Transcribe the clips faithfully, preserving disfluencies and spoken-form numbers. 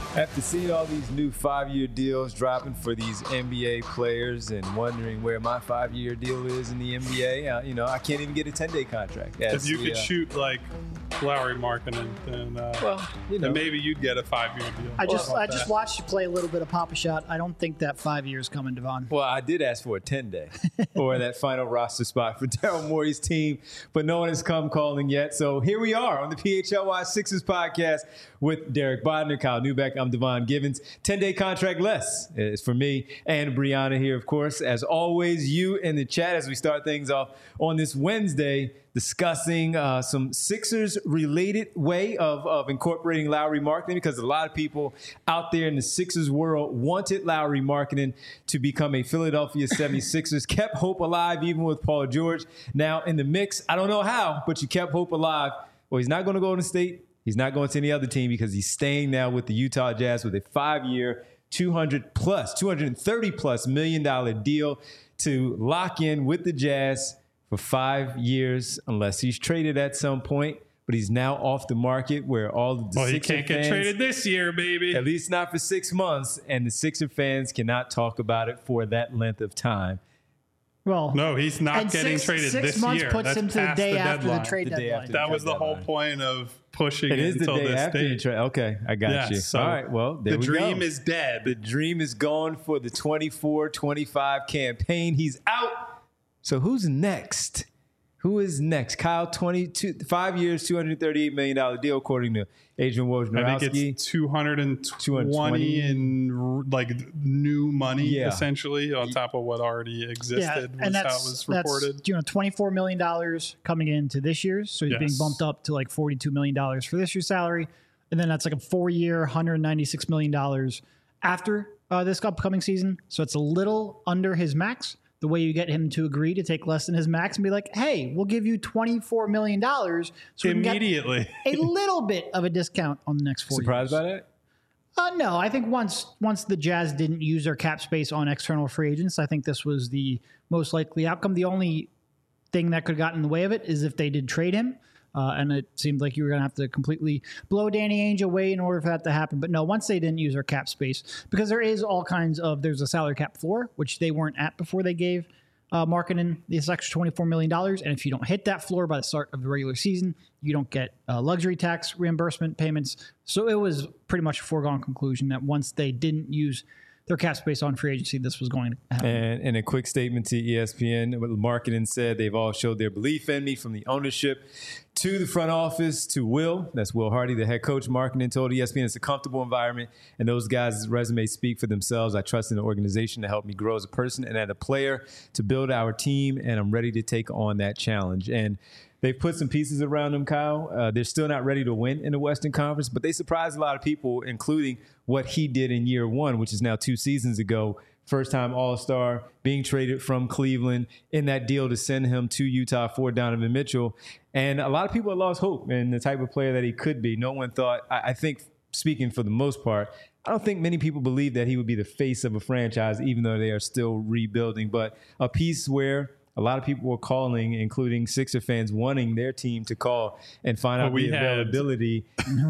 After seeing all these new five-year deals dropping for these N B A players and wondering where my five-year deal is in the N B A, uh, you know, I can't even get a ten-day contract. If you the, could uh, shoot like Lauri Markkanen, then, uh, well, you know, then maybe you'd get a five-year deal. I just I that? just watched you play a little bit of Pop-A-Shot. I don't think that five years coming, Devon. Well, I did ask for a ten-day or that final roster spot for Daryl Morey's team, but no one has come calling yet. So here we are on the P H L Y Sixers podcast with Derek Bodner, Kyle Neubeck. I'm Devon Givens. ten-day contract less is for me and Brianna here, of course. As always, you in the chat as we start things off on this Wednesday, discussing uh, some Sixers-related way of, of incorporating Lauri Markkanen, because a lot of people out there in the Sixers world wanted Lauri Markkanen to become a Philadelphia seventy-sixers, kept hope alive even with Paul George now in the mix. I don't know how, but you kept hope alive. Well, he's not going to go to State. He's not going to any other team because he's staying now with the Utah Jazz with a five-year, two hundred plus, two hundred thirty plus million dollar deal to lock in with the Jazz for five years, unless he's traded at some point. But he's now off the market where all of the well, Sixer he can't get traded this year, baby. At least not for six months. And the Sixer fans cannot talk about it for that length of time. Well, no, he's not getting six, traded six this months year. puts That's him to the day the after deadline. the trade the deadline. That the was the deadline. whole point of pushing it. It is until the day this after date. the trade. Okay, I got yes, you. So all right, well, there the we dream go. is dead. The dream is gone for the twenty-four twenty-five campaign. He's out. So who's next? Who is next? Kyle, twenty-two, five years, two hundred thirty-eight million dollars deal, according to Adrian Wojnarowski. I think it's two hundred twenty in like new money, yeah. essentially, on top of what already existed. Yeah, was and that's, how it was reported. That's, you know, twenty-four million dollars coming into this year's. So he's yes. being bumped up to like forty-two million dollars for this year's salary. And then that's like a four-year, one hundred ninety-six million dollars after uh, this upcoming season. So it's a little under his max. The way you get him to agree to take less than his max and be like, hey, we'll give you twenty-four million dollars so we immediately can get a little bit of a discount on the next four Surprised years. by that? Uh, no, I think once once the Jazz didn't use their cap space on external free agents, I think this was the most likely outcome. The only thing that could have gotten in the way of it is if they did trade him. Uh, and it seemed like you were going to have to completely blow Danny Ainge away in order for that to happen. But no, once they didn't use their cap space, because there is all kinds of, there's a salary cap floor, which they weren't at before they gave uh, Markkanen this extra twenty-four million dollars. And if you don't hit that floor by the start of the regular season, you don't get uh, luxury tax reimbursement payments. So it was pretty much a foregone conclusion that once they didn't use their cap space on free agency, this was going to happen. And in a quick statement to E S P N, what Markkanen said, they've all showed their belief in me, from the ownership to the front office to Will. That's Will Hardy, the head coach. Markkanen told E S P N it's a comfortable environment, and those guys' resumes speak for themselves. I trust in the organization to help me grow as a person and as a player, to build our team, and I'm ready to take on that challenge. And they've put some pieces around them, Kyle. Uh, they're still not ready to win in the Western Conference, but they surprised a lot of people, including what he did in year one, which is now two seasons ago. First-time All-Star, being traded from Cleveland in that deal to send him to Utah for Donovan Mitchell. And a lot of people had lost hope in the type of player that he could be. No one thought, I, I think, speaking for the most part, I don't think many people believe that he would be the face of a franchise, even though they are still rebuilding. But a piece where a lot of people were calling, including Sixer fans, wanting their team to call and find out well, we the availability.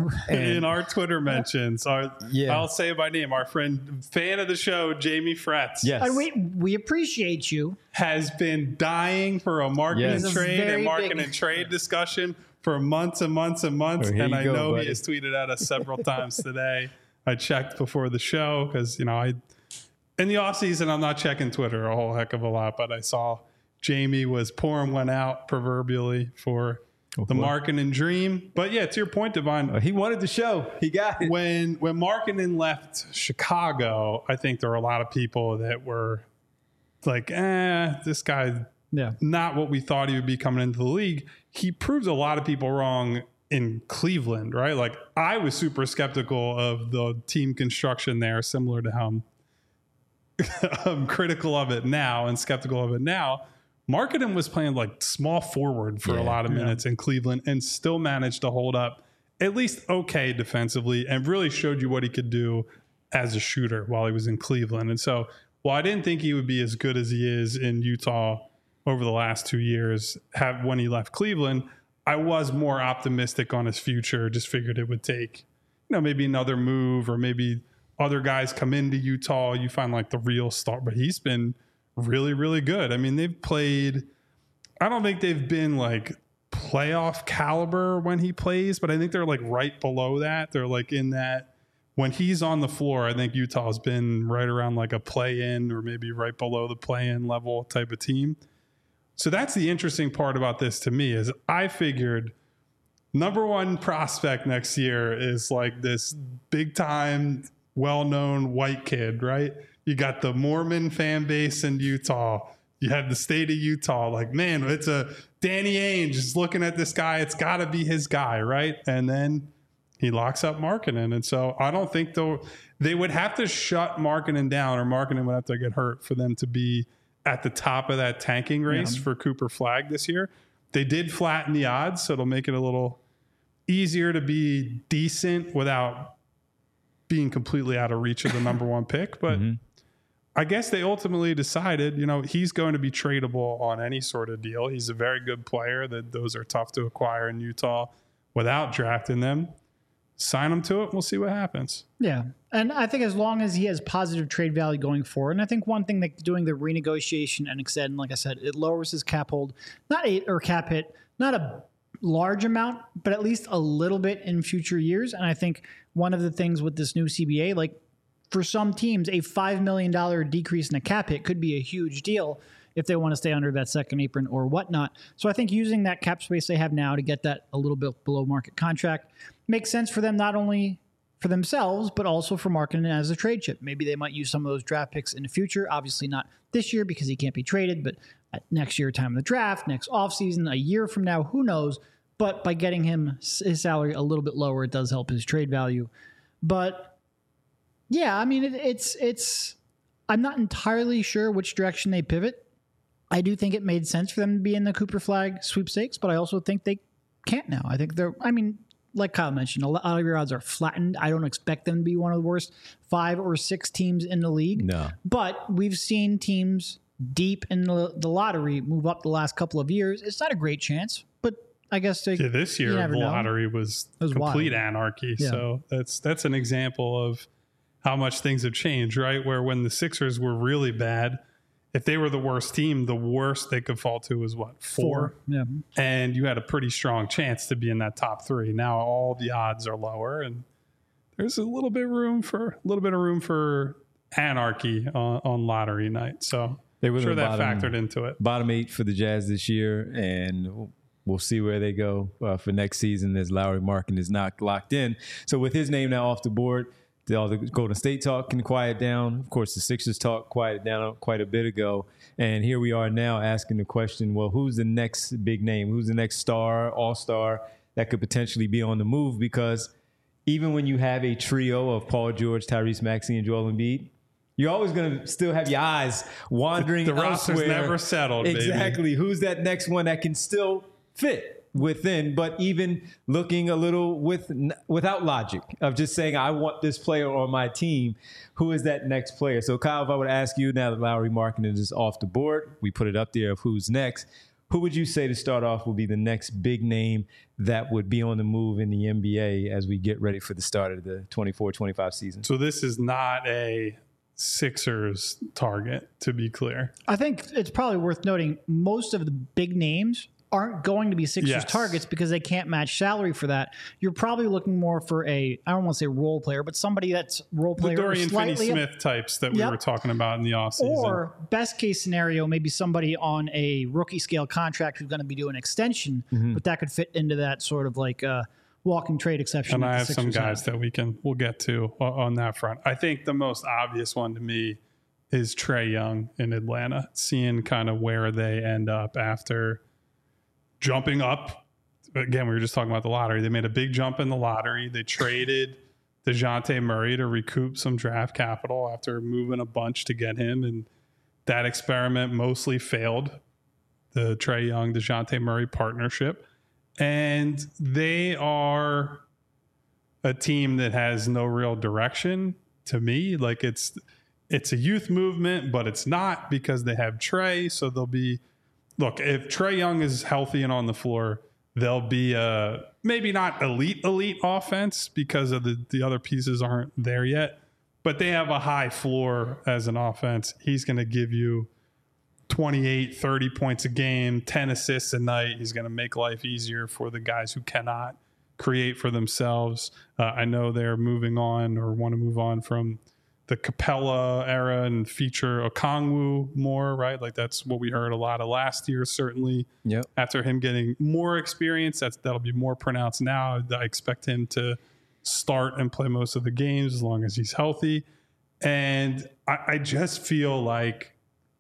In our Twitter mentions, our, yeah. I'll say it by name, our friend, fan of the show, Jamie Fretz, yes. And we, we appreciate you. has been dying for a Markkanen Yes. trade and Markkanen big- trade discussion for months and months and months. Oh, here and you I go, know buddy. he has tweeted at us several times today. I checked before the show because, you know, I in the offseason, I'm not checking Twitter a whole heck of a lot, but I saw Jamie was pouring one out proverbially for oh, the Markkanen dream. But yeah, to your point, Devon, Uh, he wanted the show. He got it. when when Markkanen left Chicago, I think there were a lot of people that were like, eh, this guy, Yeah. not what we thought he would be coming into the league. He proved a lot of people wrong in Cleveland, right? Like, I was super skeptical of the team construction there, similar to how I'm, I'm critical of it now and skeptical of it now. Markkanen was playing like small forward for Yeah, a lot of yeah. minutes in Cleveland and still managed to hold up at least okay defensively and really showed you what he could do as a shooter while he was in Cleveland. And so while I didn't think he would be as good as he is in Utah over the last two years have, when he left Cleveland, I was more optimistic on his future. Just figured it would take you know, maybe another move or maybe other guys come into Utah, you find like the real star. But he's been really, really good. I mean, they've played, I don't think they've been like playoff caliber when he plays, but I think they're like right below that. They're like in that, when he's on the floor, I think Utah's been right around like a play-in or maybe right below the play-in level type of team. So that's the interesting part about this to me is I figured number one prospect next year is like this big time, well-known white kid, right? You got the Mormon fan base in Utah. You have the state of Utah. Like, man, it's a Danny Ainge is looking at this guy. It's got to be his guy, right? And then he locks up Markkanen. And so I don't think they'll, they would have to shut Markkanen down, or Markkanen would have to get hurt for them to be at the top of that tanking race yeah. for Cooper Flagg this year. They did flatten the odds, so it'll make it a little easier to be decent without being completely out of reach of the number one pick. But mm-hmm. I guess they ultimately decided, you know, he's going to be tradable on any sort of deal. He's a very good player. That those are tough to acquire in Utah without drafting them. Sign him to it. We'll see what happens. Yeah. And I think as long as he has positive trade value going forward, and I think one thing that doing the renegotiation and extend, like I said, it lowers his cap hold, not a, or cap hit, not a large amount, but at least a little bit in future years. And I think one of the things with this new C B A, like for some teams, a five million dollars decrease in a cap hit could be a huge deal if they want to stay under that second apron or whatnot. So I think using that cap space they have now to get that a little bit below market contract makes sense for them, not only for themselves, but also for Markkanen as a trade chip. Maybe they might use some of those draft picks in the future. Obviously not this year because he can't be traded, but at next year, time of the draft, next offseason, a year from now, who knows? But by getting him his salary a little bit lower, it does help his trade value. But yeah, I mean, it, it's, it's, I'm not entirely sure which direction they pivot. I do think it made sense for them to be in the Cooper Flagg sweepstakes, but I also think they can't now. I think they're, I mean, like Kyle mentioned, a lot of your odds are flattened. I don't expect them to be one of the worst five or six teams in the league. No. But we've seen teams deep in the, the lottery move up the last couple of years. It's not a great chance, but I guess they, yeah, this year the know. lottery was, was complete wild. anarchy. Yeah. So that's that's an example of how much things have changed, right? Where when the Sixers were really bad, if they were the worst team, the worst they could fall to was what, four? Four. Yeah. And you had a pretty strong chance to be in that top three. Now all the odds are lower, and there's a little bit of room for a little bit of room for anarchy on, on lottery night. So they were sure that bottom, factored into it. Bottom eight for the Jazz this year, and we'll see where they go uh, for next season as Lauri Markkanen is not locked in. So with his name now off the board, all the Golden State talk can quiet down. Of course, the Sixers talk quieted down quite a bit ago. And here we are now asking the question, well, who's the next big name? Who's the next star, all-star that could potentially be on the move? Because even when you have a trio of Paul George, Tyrese Maxey, and Joel Embiid, you're always going to still have your eyes wandering the, the roster's elsewhere. never settled, Exactly. Baby. Who's that next one that can still fit within, but even looking a little with without logic of just saying, I want this player on my team. Who is that next player? So, Kyle, if I would ask you now that Lauri Markkanen is off the board, we put it up there of who's next. Who would you say to start off would be the next big name that would be on the move in the N B A as we get ready for the start of the twenty-four twenty-five season? So this is not a Sixers target, to be clear. I think it's probably worth noting most of the big names aren't going to be Sixers yes. targets because they can't match salary for that. You're probably looking more for a, I don't want to say role player, but somebody that's role player. The Dorian Finney-Smith types that yep. we were talking about in the offseason. Or best case scenario, maybe somebody on a rookie scale contract who's going to be doing an extension, mm-hmm. but that could fit into that sort of like uh, walking trade exception. And I have Sixers some guys have. that we can, we'll get to on that front. I think the most obvious one to me is Trae Young in Atlanta, seeing kind of where they end up after jumping up. Again, we were just talking about the lottery. They made a big jump in the lottery. They traded DeJounte Murray to recoup some draft capital after moving a bunch to get him. And that experiment mostly failed, the Trae Young, DeJounte Murray partnership. And they are a team that has no real direction to me. Like it's, it's a youth movement, but it's not because they have Trae. So they'll be, look, if Trae Young is healthy and on the floor, they'll be a maybe not elite, elite offense because of the, the other pieces aren't there yet, but they have a high floor as an offense. He's going to give you twenty-eight, thirty points a game, ten assists a night. He's going to make life easier for the guys who cannot create for themselves. Uh, I know they're moving on or want to move on from the Capella era and feature Okongwu more, right? Like that's what we heard a lot of last year, certainly. Yep. After him getting more experience, that's that'll be more pronounced now. I expect him to start and play most of the games as long as he's healthy. And I, I just feel like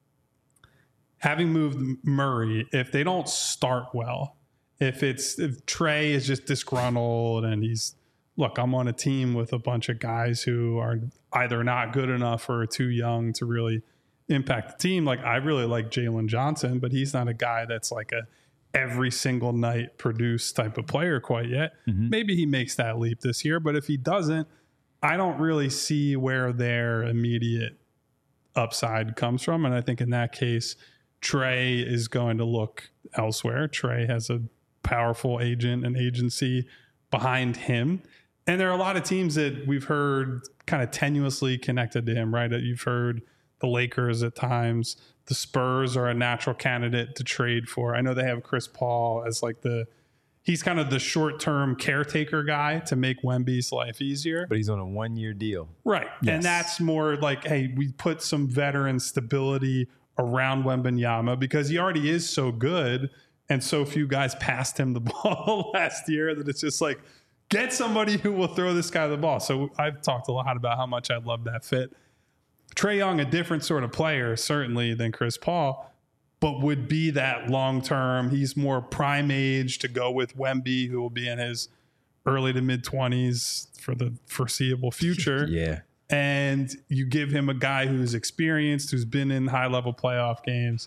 having moved Murray, if they don't start well, if it's if Trey is just disgruntled and he's look, I'm on a team with a bunch of guys who are either not good enough or too young to really impact the team. Like I really like Jalen Johnson, but he's not a guy that's like a every single night produce type of player quite yet. Mm-hmm. Maybe he makes that leap this year, but if he doesn't, I don't really see where their immediate upside comes from. And I think in that case, Trey is going to look elsewhere. Trey has a powerful agent and agency behind him. And there are a lot of teams that we've heard kind of tenuously connected to him, right? You've heard the Lakers at times. The Spurs are a natural candidate to trade for. I know they have Chris Paul as like the, he's kind of the short-term caretaker guy to make Wemby's life easier. But he's on a one-year deal. Right. Yes. And that's more like, hey, we put some veteran stability around Wembanyama because he already is so good and so few guys passed him the ball last year that it's just like, get somebody who will throw this guy the ball. So I've talked a lot about how much I love that fit. Trae Young, a different sort of player, certainly, than Chris Paul, but would be that long-term. He's more prime age to go with Wemby, who will be in his early to mid-twenties for the foreseeable future. Yeah. And you give him a guy who's experienced, who's been in high-level playoff games.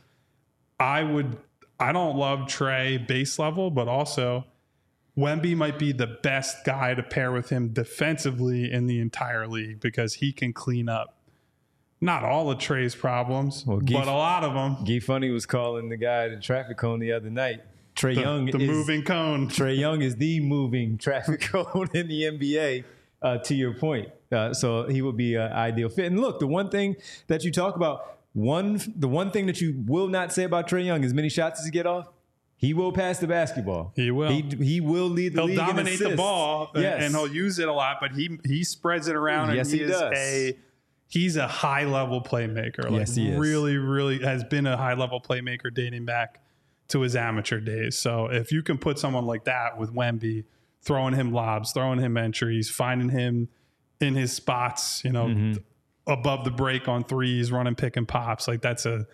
I would – I don't love Trae base level, but also – Wemby might be the best guy to pair with him defensively in the entire league because he can clean up not all of Trey's problems, well, Guy, but a lot of them. Guy Funny was calling the guy the traffic cone the other night. Trae the, Young the is, moving cone. Trae Young is the moving traffic cone in the N B A, uh, to your point. Uh, so he would be an ideal fit. And look, the one thing that you talk about, one the one thing that you will not say about Trae Young, as many shots as he get off, he will pass the basketball. He will. He, he will lead the he'll league. He'll dominate the ball, yes. and he'll use it a lot. But he he spreads it around. And yes, he, he is does. A he's a high level playmaker. Like yes, he is. Really, really has been a high level playmaker dating back to his amateur days. So if you can put someone like that with Wemby, throwing him lobs, throwing him entries, finding him in his spots, you know, mm-hmm. above the break on threes, running pick and pops, like that's a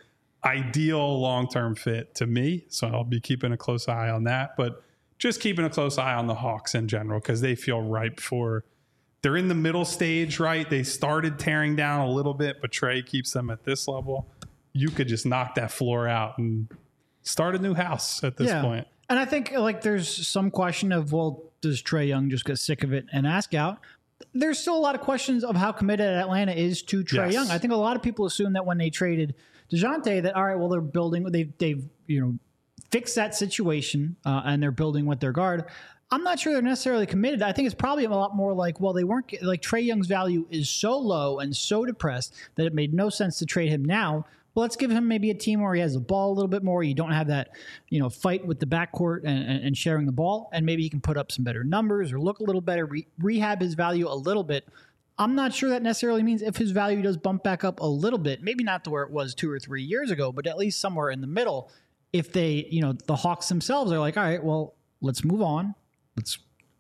ideal long-term fit to me. So I'll be keeping a close eye on that, but just keeping a close eye on the Hawks in general because they feel ripe for, they're in the middle stage, right? They started tearing down a little bit, but Trae keeps them at this level. You could just knock that floor out and start a new house at this yeah. point. And I think like there's some question of, well, does Trae Young just get sick of it and ask out? There's still a lot of questions of how committed Atlanta is to Trae yes. Young. I think a lot of people assume that when they traded DeJounte, that all right, well, they're building, they've they've you know fixed that situation uh, and they're building with their guard. I'm not sure they're necessarily committed. I think it's probably a lot more like, well, they weren't like Trae Young's value is so low and so depressed that it made no sense to trade him now. Well, let's give him maybe a team where he has the ball a little bit more. You don't have that, you know, fight with the backcourt and, and, and sharing the ball, and maybe he can put up some better numbers or look a little better, re- rehab his value a little bit. I'm not sure that necessarily means if his value does bump back up a little bit, maybe not to where it was two or three years ago, but at least somewhere in the middle. If they, you know, the Hawks themselves are like, all right, well, let's move on. Let's,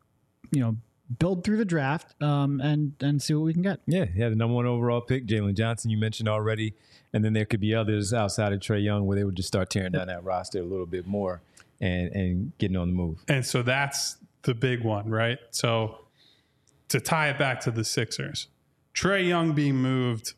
you know, build through the draft um, and and see what we can get. Yeah, yeah, the number one overall pick, Jalen Johnson, you mentioned already. And then there could be others outside of Trae Young where they would just start tearing down that roster a little bit more and, and getting on the move. And so that's the big one, right? So to tie it back to the Sixers, Trae Young being moved,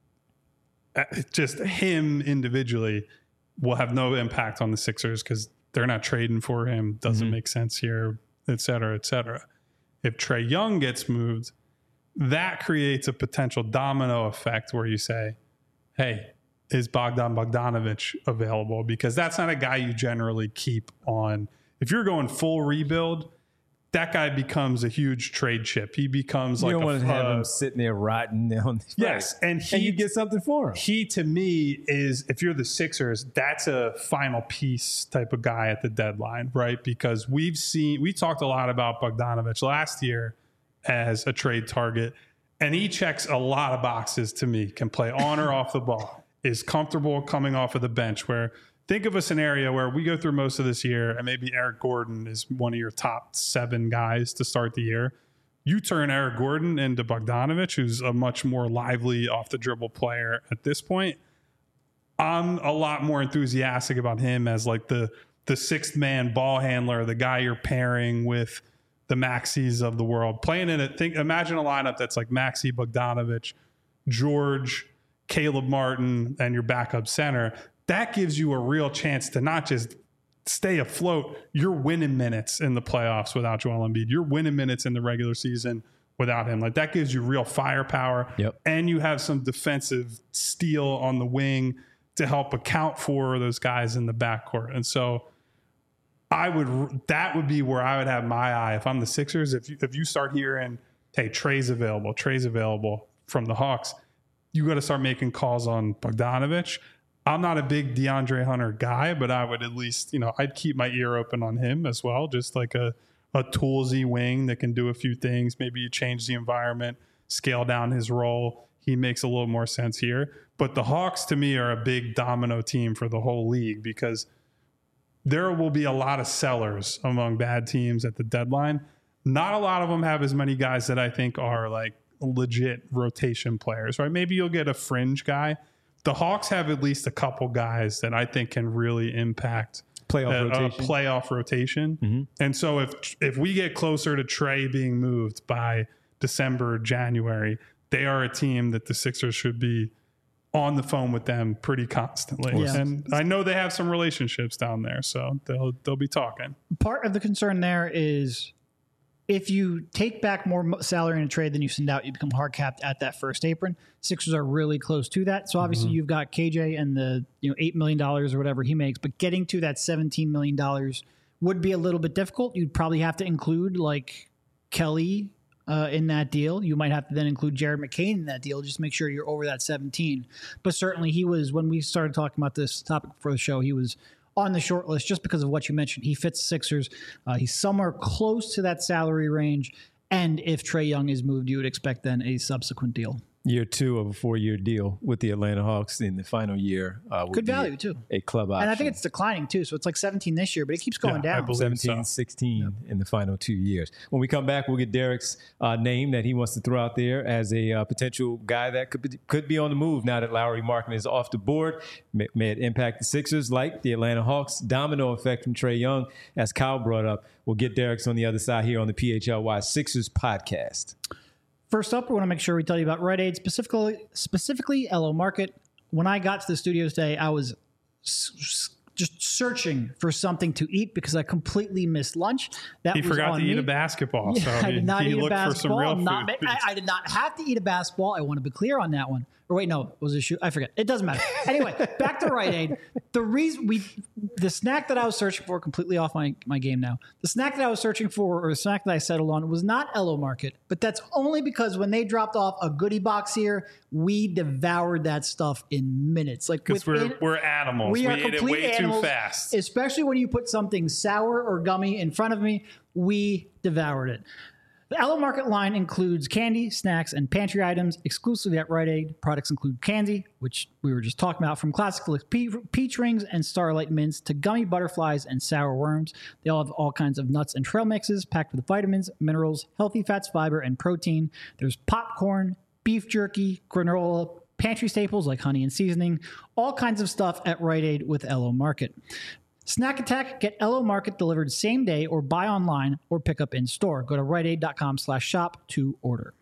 just him individually will have no impact on the Sixers because they're not trading for him. Doesn't mm-hmm. make sense here, et cetera, et cetera. If Trae Young gets moved, that creates a potential domino effect where you say, hey, is Bogdan Bogdanović available? Because that's not a guy you generally keep on If you're going full rebuild, that guy becomes a huge trade chip. He becomes you like don't a, want to have uh, him sitting there rotting on the yes, right. and he and you get something for him. He to me is, if you're the Sixers, that's a final piece type of guy at the deadline, right? Because we've seen we talked a lot about Bogdanovich last year as a trade target, and he checks a lot of boxes to me. Can play on or off the ball, is comfortable coming off of the bench. Where think of a scenario where we go through most of this year and maybe Eric Gordon is one of your top seven guys to start the year. You turn Eric Gordon into Bogdanovich, who's a much more lively off the dribble player at this point. I'm a lot more enthusiastic about him as like the, the sixth man ball handler, the guy you're pairing with the Maxis of the world. Playing in it, think, imagine a lineup that's like Maxi, Bogdanovich, George, Caleb Martin, and your backup center. That gives you a real chance to not just stay afloat. You're winning minutes in the playoffs without Joel Embiid. You're winning minutes in the regular season without him. Like, that gives you real firepower. Yep. And you have some defensive steel on the wing to help account for those guys in the backcourt. And so I would, that would be where I would have my eye if I'm the Sixers. If you, if you start hearing, hey, Trey's available, Trey's available from the Hawks, you got to start making calls on Bogdanovich. I'm not a big DeAndre Hunter guy, but I would at least, you know, I'd keep my ear open on him as well. Just like a, a toolsy wing that can do a few things. Maybe you change the environment, scale down his role. He makes a little more sense here. But the Hawks, to me, are a big domino team for the whole league because there will be a lot of sellers among bad teams at the deadline. Not a lot of them have as many guys that I think are like legit rotation players, right? Maybe you'll get a fringe guy. The Hawks have at least a couple guys that I think can really impact playoff a, rotation. a playoff rotation. Mm-hmm. And so if if we get closer to Trey being moved by December, January, they are a team that the Sixers should be on the phone with them pretty constantly. Yeah. And I know they have some relationships down there, so they'll they'll be talking. Part of the concern there is if you take back more salary in a trade than you send out, you become hard capped at that first apron. Sixers are really close to that. So obviously mm-hmm. you've got K J and the you know eight million dollars or whatever he makes, but getting to that seventeen million dollars would be a little bit difficult. You'd probably have to include like Kelly uh, in that deal. You might have to then include Jared McCain in that deal, just to make sure you're over that seventeen. But certainly he was, when we started talking about this topic for the show, he was on the short list just because of what you mentioned. He fits Sixers. Uh, he's somewhere close to that salary range. And if Trae Young is moved, you would expect then a subsequent deal. Year two of a four-year deal with the Atlanta Hawks in the final year. Uh, would Good be value, a, too. A club option. And I think it's declining, too. So it's like seventeen this year, but it keeps going Yeah, I down. believe seventeen, so. sixteen Yep. in the final two years. When we come back, we'll get Derek's uh, name that he wants to throw out there as a uh, potential guy that could be, could be on the move now that Lauri Markkanen is off the board. May, may it impact the Sixers like the Atlanta Hawks. Domino effect from Trae Young, as Kyle brought up. We'll get Derek's on the other side here on the P H L Y Sixers podcast. First up, we want to make sure we tell you about Rite Aid, specifically specifically Elo Market. When I got to the studio today, I was s- s- just searching for something to eat because I completely missed lunch. That He was forgot on to me. eat a basketball, Yeah, so I he, did not he eat a looked for some basketball. real I'm not, food. I, I did not have to eat a basketball. I want to be clear on that one. Or wait, no, was it a shoe? I forget. It doesn't matter. Anyway, back to Rite Aid. The reason we, the snack that I was searching for, completely off my, my game now. The snack that I was searching for, or the snack that I settled on, was not Elo Market, but that's only because when they dropped off a goodie box here, we devoured that stuff in minutes. Like Because we're, we're animals. we We, are ate it complete way animals, too fast. especially when you put something sour or gummy in front of me. We devoured it. The Elo Market line includes candy, snacks, and pantry items exclusively at Rite Aid. Products include candy, which we were just talking about, from classic pe- peach rings and Starlight Mints to gummy butterflies and sour worms. They all have all kinds of nuts and trail mixes packed with vitamins, minerals, healthy fats, fiber, and protein. There's popcorn, beef jerky, granola, pantry staples like honey and seasoning, all kinds of stuff at Rite Aid with Elo Market. Snack Attack, get Elo Market delivered same day or buy online or pick up in store. Go to riteaid.com slash shop to order.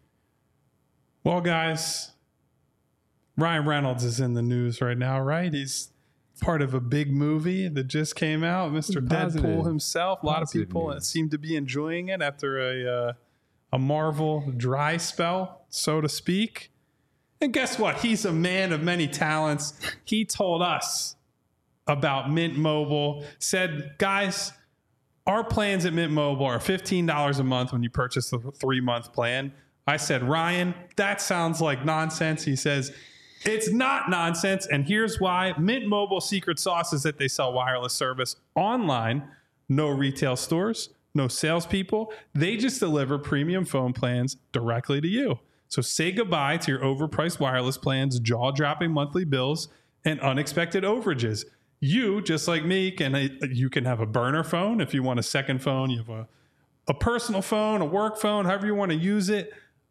Well, guys, Ryan Reynolds is in the news right now, right? He's part of a big movie that just came out. Mister Positive. Deadpool himself. A lot Positive of people news. seem to be enjoying it after a uh, a Marvel dry spell, so to speak. And guess what? He's a man of many talents. He told us about Mint Mobile, said, guys, our plans at Mint Mobile are fifteen dollars a month when you purchase the three-month plan. I said, Ryan, that sounds like nonsense. He says, it's not nonsense, and here's why. Mint Mobile secret sauce is that they sell wireless service online, no retail stores, no salespeople. They just deliver premium phone plans directly to you. So say goodbye to your overpriced wireless plans, jaw-dropping monthly bills, and unexpected overages. You, just like me, can you can have a burner phone. If you want a second phone, you have a, a personal phone, a work phone, however you want to use it.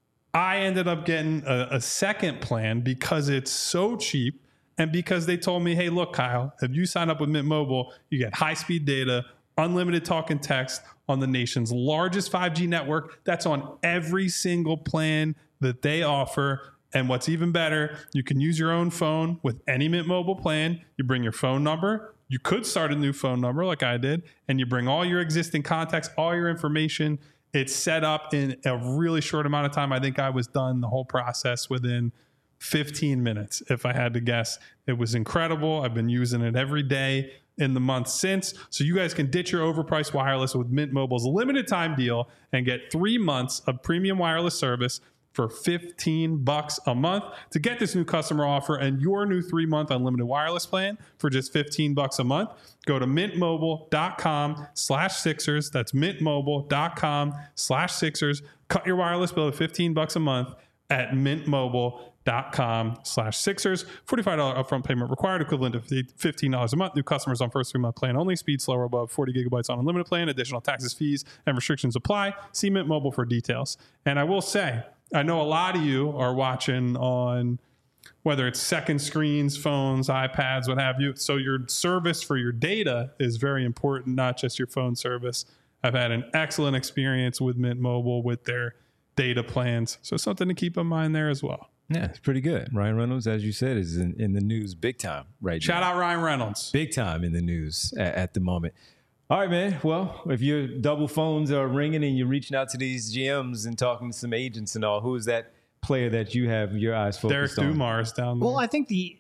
I ended up getting a, a second plan because it's so cheap and because they told me, hey, look, Kyle, if you sign up with Mint Mobile, you get high-speed data, unlimited talk and text on the nation's largest five G network. That's on every single plan that they offer. And what's even better, you can use your own phone with any Mint Mobile plan. You bring your phone number. You could start a new phone number like I did, and you bring all your existing contacts, all your information. It's set up in a really short amount of time. I think I was done the whole process within fifteen minutes, if I had to guess. It was incredible. I've been using it every day in the month since. So you guys can ditch your overpriced wireless with Mint Mobile's limited time deal and get three months of premium wireless service for fifteen bucks a month. To get this new customer offer and your new three-month unlimited wireless plan for just fifteen bucks a month, go to mintmobile.com slash Sixers. That's mintmobile.com slash Sixers. Cut your wireless bill to fifteen bucks a month at mintmobile.com slash Sixers. forty-five dollars upfront payment required, equivalent to fifteen dollars a month. New customers on first three-month plan only. Speed slower above forty gigabytes on unlimited plan. Additional taxes, fees, and restrictions apply. See Mint Mobile for details. And I will say, I know a lot of you are watching on whether it's second screens, phones, iPads, what have you. So your service for your data is very important, not just your phone service. I've had an excellent experience with Mint Mobile with their data plans. So something to keep in mind there as well. Yeah, it's pretty good. Ryan Reynolds, as you said, is in, in the news big time right Shout now. out Ryan Reynolds. Big time in the news at, at the moment. All right, man. Well, if your double phones are ringing and you're reaching out to these G Ms and talking to some agents and all, who is that player that you have your eyes focused Derek on? Dumars down there. Well, I think the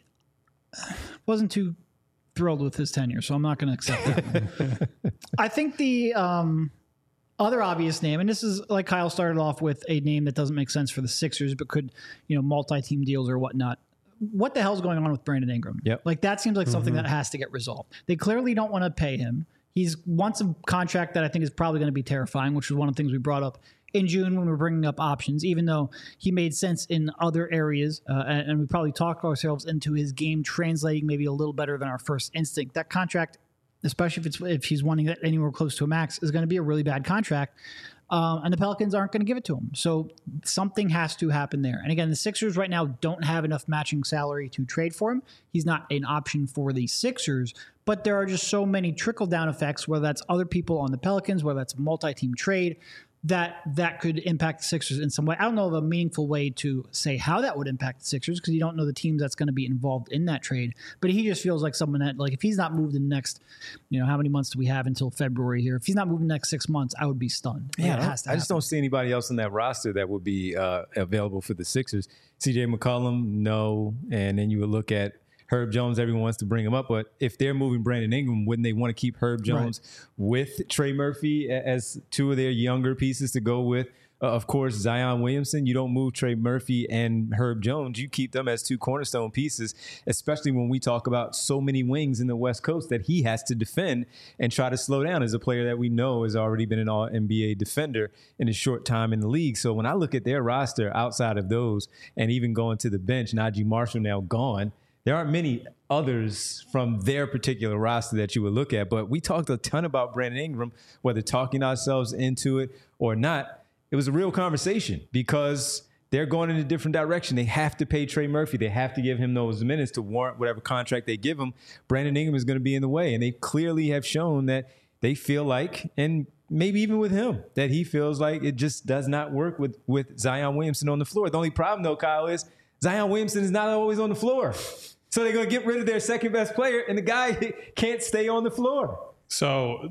wasn't too thrilled with his tenure, so I'm not going to accept that. I think the um, other obvious name, and this is like Kyle started off with a name that doesn't make sense for the Sixers, but could, you know, multi-team deals or whatnot. What the hell's going on with Brandon Ingram? Yep. Like that seems like something mm-hmm. that has to get resolved. They clearly don't want to pay him. He's wants a contract that I think is probably going to be terrifying, which was one of the things we brought up in June when we were bringing up options, even though he made sense in other areas. Uh, and, and we probably talked ourselves into his game translating maybe a little better than our first instinct. That contract, especially if it's if he's wanting it anywhere close to a max, is going to be a really bad contract. Um, and the Pelicans aren't going to give it to him. So something has to happen there. And again, the Sixers right now don't have enough matching salary to trade for him. He's not an option for the Sixers, but there are just so many trickle-down effects, whether that's other people on the Pelicans, whether that's a multi-team trade, that that could impact the Sixers in some way. I don't know of a meaningful way to say how that would impact the Sixers because you don't know the teams that's going to be involved in that trade. But he just feels like someone that, like, if he's not moved in the next, you know, how many months do we have until February here? If he's not moved in the next six months, I would be stunned. Yeah, it has to I just don't see anybody else on that roster that would be uh, available for the Sixers. C J McCollum, no. And then you would look at Herb Jones. Everyone wants to bring him up, but if they're moving Brandon Ingram, wouldn't they want to keep Herb Jones right. with Trey Murphy as two of their younger pieces to go with? Uh, of course, Zion Williamson. You don't move Trey Murphy and Herb Jones. You keep them as two cornerstone pieces, especially when we talk about so many wings in the West Coast that he has to defend and try to slow down as a player that we know has already been an all N B A defender in his short time in the league. So when I look at their roster outside of those and even going to the bench, Najee Marshall now gone, there aren't many others from their particular roster that you would look at. But we talked a ton about Brandon Ingram, whether talking ourselves into it or not. It was a real conversation because they're going in a different direction. They have to pay Trey Murphy. They have to give him those minutes to warrant whatever contract they give him. Brandon Ingram is going to be in the way. And they clearly have shown that they feel like, and maybe even with him, that he feels like it just does not work with, with Zion Williamson on the floor. The only problem, though, Kyle, is Zion Williamson is not always on the floor. So they're going to get rid of their second best player, and the guy can't stay on the floor. So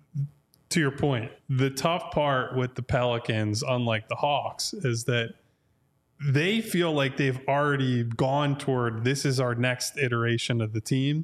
to your point, the tough part with the Pelicans, unlike the Hawks, is that they feel like they've already gone toward this is our next iteration of the team.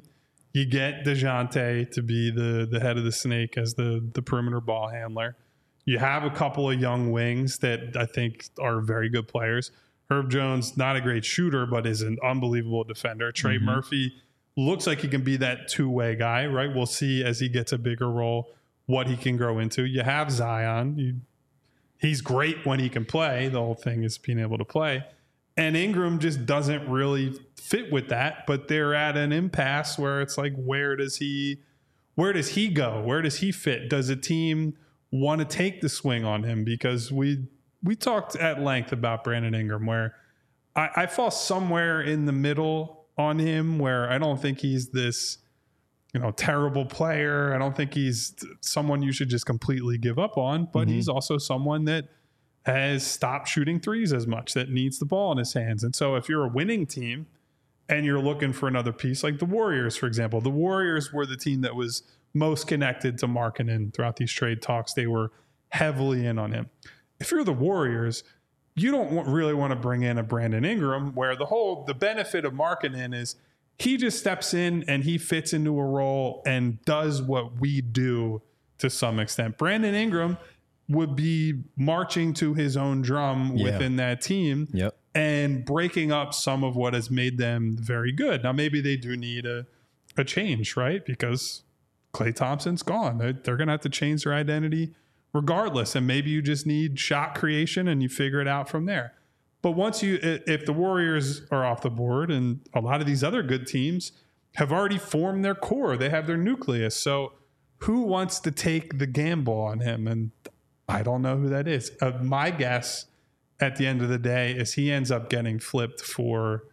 You get DeJounte to be the the head of the snake as the the perimeter ball handler. You have a couple of young wings that I think are very good players. Herb Jones, not a great shooter, but is an unbelievable defender. Trey mm-hmm. Murphy looks like he can be that two-way guy, right? We'll see as he gets a bigger role what he can grow into. You have Zion. You, he's great when he can play. The whole thing is being able to play. And Ingram just doesn't really fit with that, but they're at an impasse where it's like, where does he, where does he go? Where does he fit? Does a team want to take the swing on him? Because we we talked at length about Brandon Ingram, where I, I fall somewhere in the middle on him, where I don't think he's this, you know, terrible player. I don't think he's someone you should just completely give up on, but mm-hmm. he's also someone that has stopped shooting threes as much, that needs the ball in his hands. And so if you're a winning team and you're looking for another piece, like the Warriors, for example, the Warriors were the team that was most connected to Markkanen throughout these trade talks. They were heavily in on him. If you're the Warriors, you don't want, really want to bring in a Brandon Ingram, where the whole, the benefit of Markkanen is he just steps in and he fits into a role and does what we do to some extent. Brandon Ingram would be marching to his own drum yeah. within that team yep. and breaking up some of what has made them very good. Now, maybe they do need a, a change, right? Because Klay Thompson's gone. They're, they're going to have to change their identity regardless. And maybe you just need shot creation and you figure it out from there. But once you, if the Warriors are off the board, and a lot of these other good teams have already formed their core, they have their nucleus. So who wants to take the gamble on him? And I don't know who that is. Uh, my guess at the end of the day is he ends up getting flipped for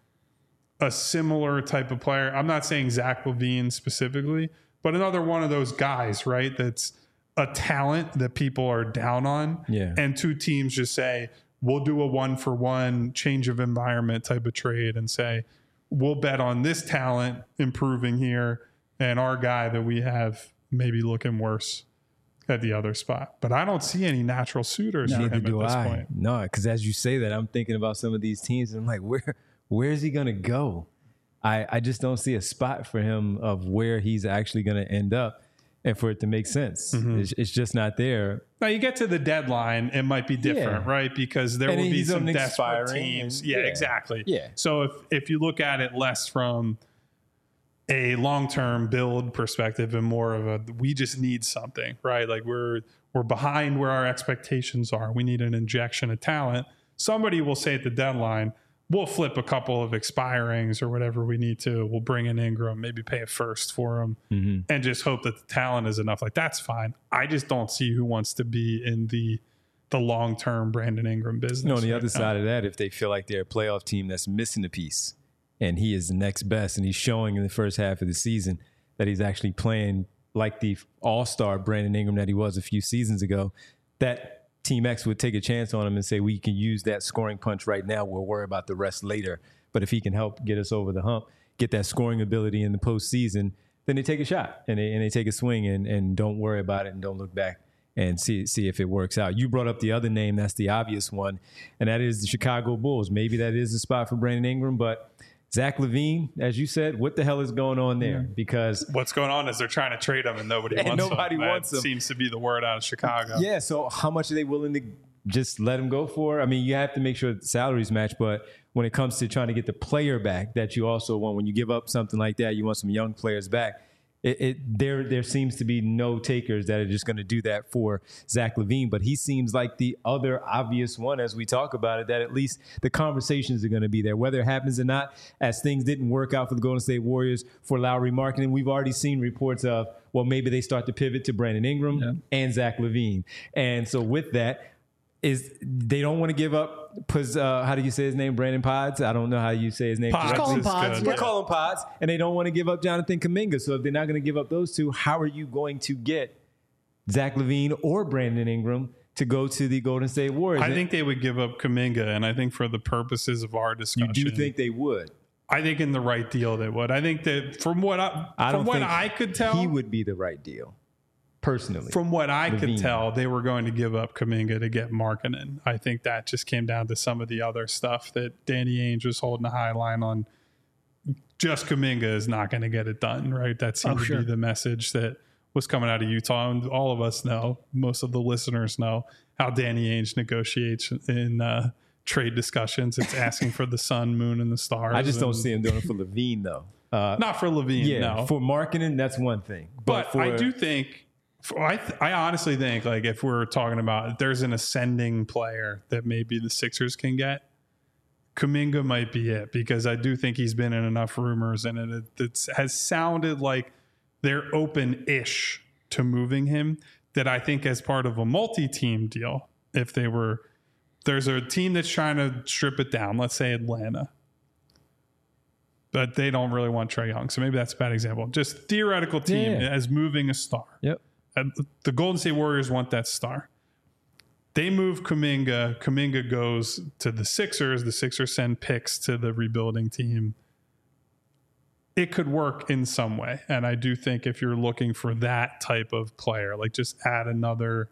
a similar type of player. I'm not saying Zach LaVine specifically, but another one of those guys, right? That's a talent that people are down on. Yeah. And two teams just say, we'll do a one for one change of environment type of trade and say, we'll bet on this talent improving here and our guy that we have maybe looking worse at the other spot. But I don't see any natural suitors no, for him at this I. point. No, because as you say that, I'm thinking about some of these teams and I'm like, where where is he going to go? I, I just don't see a spot for him of where he's actually going to end up and for it to make sense. Mm-hmm. It's, it's just not there. Now, you get to the deadline, it might be different, yeah. right? Because there and will be some desperate teams. And, yeah, yeah, exactly. Yeah. So if, if you look at it less from a long-term build perspective and more of a, we just need something, right? Like we're, we're behind where our expectations are. We need an injection of talent. Somebody will say at the deadline, we'll flip a couple of expirings or whatever we need to. We'll bring in Ingram, maybe pay a first for him mm-hmm. and just hope that the talent is enough. Like that's fine. I just don't see who wants to be in the, the long-term Brandon Ingram business. No, on the right other now. side of that, if they feel like they're a playoff team that's missing a piece, and he is the next best, and he's showing in the first half of the season that he's actually playing like the all-star Brandon Ingram that he was a few seasons ago, that Team X would take a chance on him and say, we can use that scoring punch right now. We'll worry about the rest later. But if he can help get us over the hump, get that scoring ability in the postseason, then they take a shot and they, and they take a swing and, and don't worry about it and don't look back and see see if it works out. You brought up the other name, that's the obvious one, and that is the Chicago Bulls. Maybe that is the spot for Brandon Ingram, but Zach LaVine, as you said, what the hell is going on there? Because what's going on is they're trying to trade him and nobody and wants nobody him. wants that him. Seems to be the word out of Chicago. Yeah, so how much are they willing to just let him go for? I mean, you have to make sure the salaries match, but when it comes to trying to get the player back that you also want, when you give up something like that, you want some young players back. It, it there there seems to be no takers that are just going to do that for Zach LaVine, but he seems like the other obvious one as we talk about it, that at least the conversations are going to be there, whether it happens or not. As things didn't work out for the Golden State Warriors for Lauri Markkanen, we've already seen reports of, well, maybe they start to pivot to Brandon Ingram yeah. and Zach LaVine. And so with that, is they don't want to give up, uh, how do you say his name, Brandon Pods? I don't know how you say his name. Pods. Call him Pods. We'll call him Pods. And they don't want to give up Jonathan Kuminga. So if they're not going to give up those two, how are you going to get Zach LaVine or Brandon Ingram to go to the Golden State Warriors? I think they would give up Kuminga, and I think for the purposes of our discussion, you do think they would? I think in the right deal they would. I think that from what I, I from don't what think I could tell, he would be the right deal. Personally, from what I LaVine. could tell, they were going to give up Kuminga to get Markkanen. I think that just came down to some of the other stuff that Danny Ainge was holding a high line on just Kuminga is not going to get it done, right? That seemed Oh, to sure. be the message that was coming out of Utah. And all of us know, most of the listeners know how Danny Ainge negotiates in uh, trade discussions. It's asking for the sun, moon, and the stars. I just don't and see him doing it for Levine, though. Uh, Not for Levine, yeah, no. for marketing, that's one thing. But, But, for, I do think, for, I th- I honestly think, like, if we're talking about if there's an ascending player that maybe the Sixers can get, Kuminga might be it, because I do think he's been in enough rumors and it, it has sounded like they're open-ish to moving him, that I think as part of a multi-team deal, if they were, there's a team that's trying to strip it down, let's say Atlanta, but they don't really want Trae Young. So maybe that's a bad example. Just theoretical team Yeah, yeah. as moving a star. Yep. And the Golden State Warriors want that star. They move Kuminga. Kuminga goes to the Sixers. The Sixers send picks to the rebuilding team. It could work in some way. And I do think if you're looking for that type of player, like just add another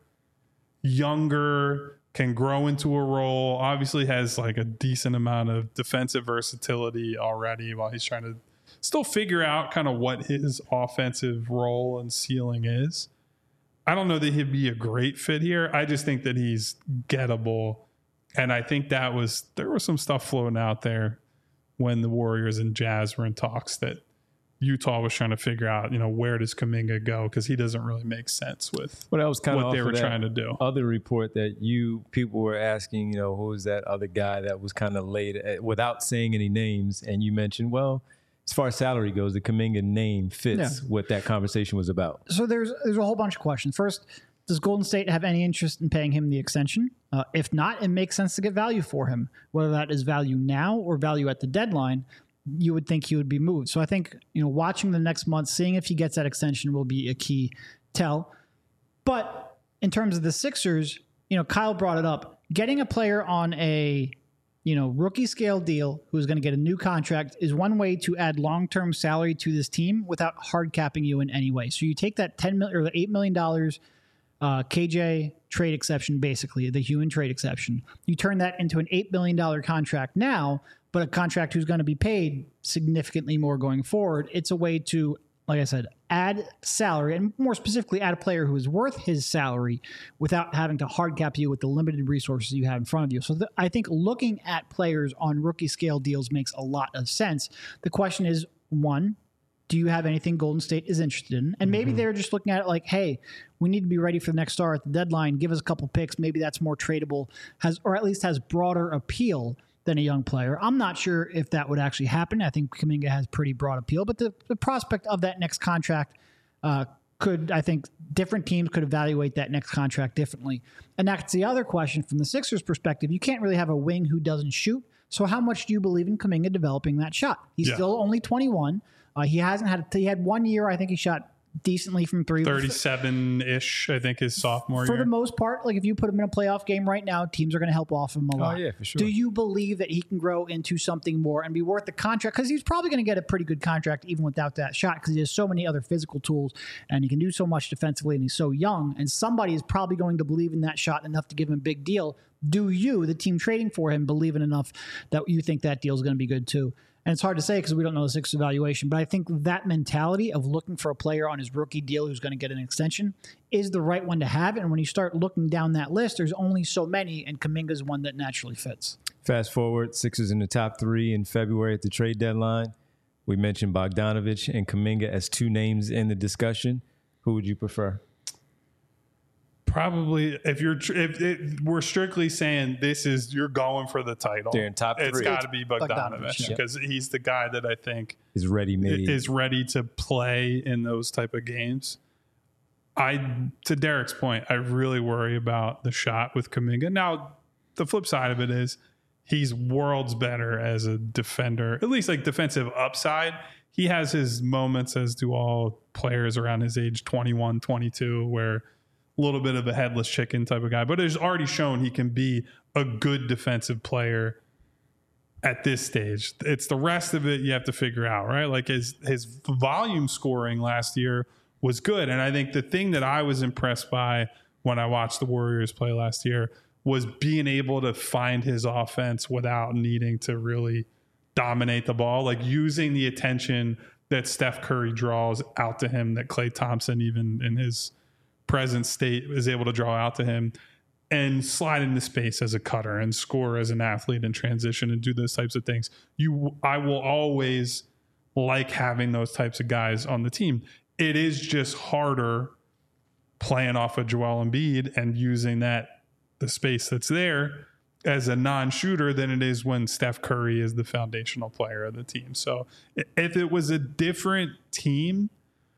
younger, can grow into a role, obviously has like a decent amount of defensive versatility already while he's trying to still figure out kind of what his offensive role and ceiling is. I don't know that he'd be a great fit here. I just think that he's gettable. And I think that was, there was some stuff floating out there when the Warriors and Jazz were in talks that Utah was trying to figure out, you know, where does Kuminga go? Because he doesn't really make sense with Well, that was kind what of they were that trying to do. Other report that you people were asking, you know, who was that other guy that was kind of laid uh, without saying any names, and you mentioned, well, as far as salary goes, the Kuminga name fits Yeah. what that conversation was about. So there's there's a whole bunch of questions. First, does Golden State have any interest in paying him the extension? Uh, if not, it makes sense to get value for him, whether that is value now or value at the deadline. You would think he would be moved. So I think, you know, watching the next month, seeing if he gets that extension will be a key tell. But in terms of the Sixers, you know, Kyle brought it up. Getting a player on a, you know, rookie scale deal who's going to get a new contract is one way to add long-term salary to this team without hard capping you in any way. So you take that ten million or the eight million dollars uh, K J trade exception, basically the human trade exception. You turn that into an eight million dollars contract now, but a contract who's going to be paid significantly more going forward. It's a way to, like I said, add salary, and more specifically, add a player who is worth his salary without having to hard cap you with the limited resources you have in front of you. So th- I think looking at players on rookie scale deals makes a lot of sense. The question is, one, do you have anything Golden State is interested in? And maybe mm-hmm. they're just looking at it like, hey, we need to be ready for the next star at the deadline. Give us a couple picks. Maybe that's more tradable, has or at least has broader appeal than a young player. I'm not sure if that would actually happen. I think Kuminga has pretty broad appeal, but the, the prospect of that next contract uh, could, I think, different teams could evaluate that next contract differently. And that's the other question from the Sixers' perspective. You can't really have a wing who doesn't shoot. So how much do you believe in Kuminga developing that shot? He's yeah. still only twenty-one. Uh, he hasn't had, he had one year, I think he shot decently from three. thirty-seven-ish, I think, his sophomore for year. For the most part, like if you put him in a playoff game right now, teams are going to help off him a lot. Oh, yeah, for sure. Do you believe that he can grow into something more and be worth the contract? Because he's probably going to get a pretty good contract even without that shot, because he has so many other physical tools and he can do so much defensively and he's so young, and somebody is probably going to believe in that shot enough to give him a big deal. Do you, the team trading for him, believe in enough that you think that deal is going to be good too? And it's hard to say because we don't know the Sixers evaluation, but I think that mentality of looking for a player on his rookie deal who's going to get an extension is the right one to have. And when you start looking down that list, there's only so many, and Kuminga's one that naturally fits. Fast forward, Sixers in the top three in February at the trade deadline. We mentioned Bogdanovich and Kuminga as two names in the discussion. Who would you prefer? Probably, if you're, if it, we're strictly saying this is, you're going for the title. They're in top three. It's got to be Bogdanovich Bogdanovich, because yeah. he's the guy that I think is ready made. is ready to play in those type of games. I, to Derek's point, I really worry about the shot with Kuminga. Now, the flip side of it is he's worlds better as a defender, at least like defensive upside. He has his moments, as do all players around his age, twenty-one, twenty-two, where a little bit of a headless chicken type of guy, but it's already shown he can be a good defensive player at this stage. It's the rest of it you have to figure out, right? Like his his volume scoring last year was good. And I think the thing that I was impressed by when I watched the Warriors play last year was being able to find his offense without needing to really dominate the ball, like using the attention that Steph Curry draws out to him, that Klay Thompson, even in his present state, is able to draw out to him, and slide into space as a cutter and score as an athlete in transition and do those types of things. You, I will always like having those types of guys on the team. It is just harder playing off of Joel Embiid and using that, the space that's there, as a non-shooter than it is when Steph Curry is the foundational player of the team. So if it was a different team,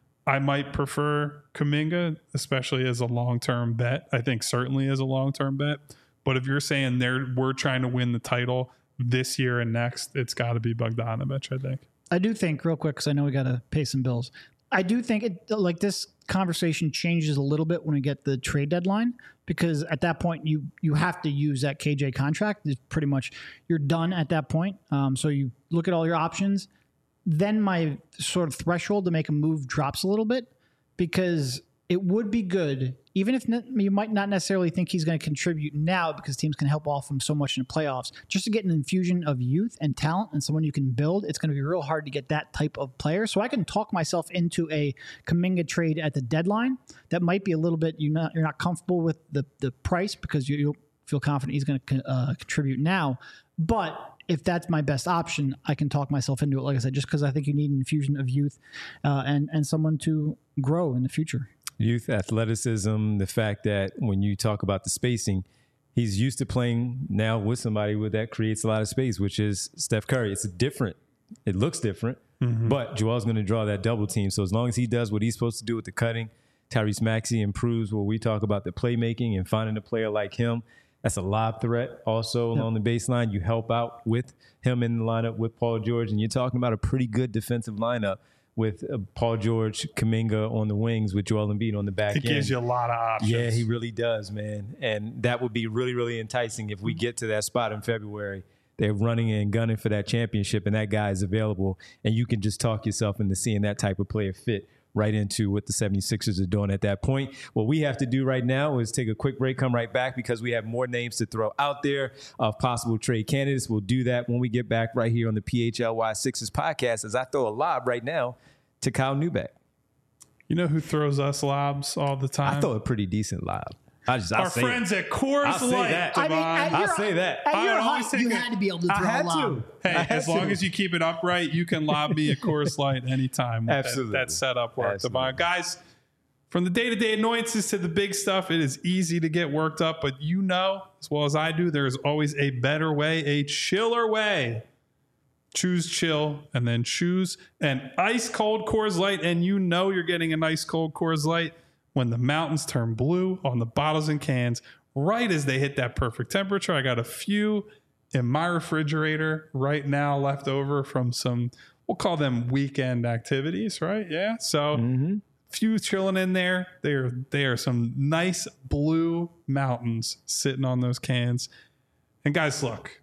I might prefer Kuminga, especially as a long-term bet. I think certainly as a long-term bet. But if you're saying they're we're trying to win the title this year and next, it's got to be Bogdanovich, I think. I do think, real quick, because I know we got to pay some bills. I do think it, like this conversation changes a little bit when we get the trade deadline, because at that point you you have to use that K J contract. It's pretty much you're done at that point. Um, so you look at all your options. Then my sort of threshold to make a move drops a little bit, because it would be good, even if ne- you might not necessarily think he's going to contribute now, because teams can help off him so much in the playoffs, just to get an infusion of youth and talent and someone you can build. It's going to be real hard to get that type of player. So I can talk myself into a Kuminga trade at the deadline. That might be a little bit, you're not, you're not comfortable with the, the price, because you, you'll feel confident he's going to uh, contribute now. But if that's my best option, I can talk myself into it, like I said, just because I think you need an infusion of youth uh, and, and someone to grow in the future. Youth, athleticism, the fact that when you talk about the spacing, he's used to playing now with somebody with that creates a lot of space, which is Steph Curry. It's different. It looks different, mm-hmm. but Joel's going to draw that double team. So as long as he does what he's supposed to do with the cutting, Tyrese Maxey improves what we talk about the playmaking and finding a player like him. That's a lob threat also yep. along the baseline. You help out with him in the lineup with Paul George, and you're talking about a pretty good defensive lineup with uh, Paul George, Kuminga on the wings, with Joel Embiid on the back it end. It gives you a lot of options. Yeah, he really does, man. And that would be really, really enticing if we get to that spot in February. They're running and gunning for that championship, and that guy is available, and you can just talk yourself into seeing that type of player fit right into what the seventy-sixers are doing at that point. What we have to do right now is take a quick break, come right back, because we have more names to throw out there of possible trade candidates. We'll do that when we get back right here on the P H L Y Sixers podcast, as I throw a lob right now to Kyle Neubeck. You know who throws us lobs all the time? I throw a pretty decent lob. I just, I'll Our say friends it. at Coors I'll Light. That, I mean, at I'll your, say that. At your I height, always you think had to be able to throw I had a lob. to. Hey, I had as long to. as you keep it upright, you can lob me a Coors Light anytime. With Absolutely. That, that setup worked. Absolutely. Guys, from the day-to-day annoyances to the big stuff, it is easy to get worked up, but you know, as well as I do, there is always a better way, a chiller way. Choose chill, and then choose an ice-cold Coors Light, and you know you're getting an ice-cold Coors Light when the mountains turn blue on the bottles and cans, right as they hit that perfect temperature. I got a few in my refrigerator right now left over from some, we'll call them weekend activities, right? Yeah. So mm-hmm. few chilling in there. They are, they are some nice blue mountains sitting on those cans. And guys, look,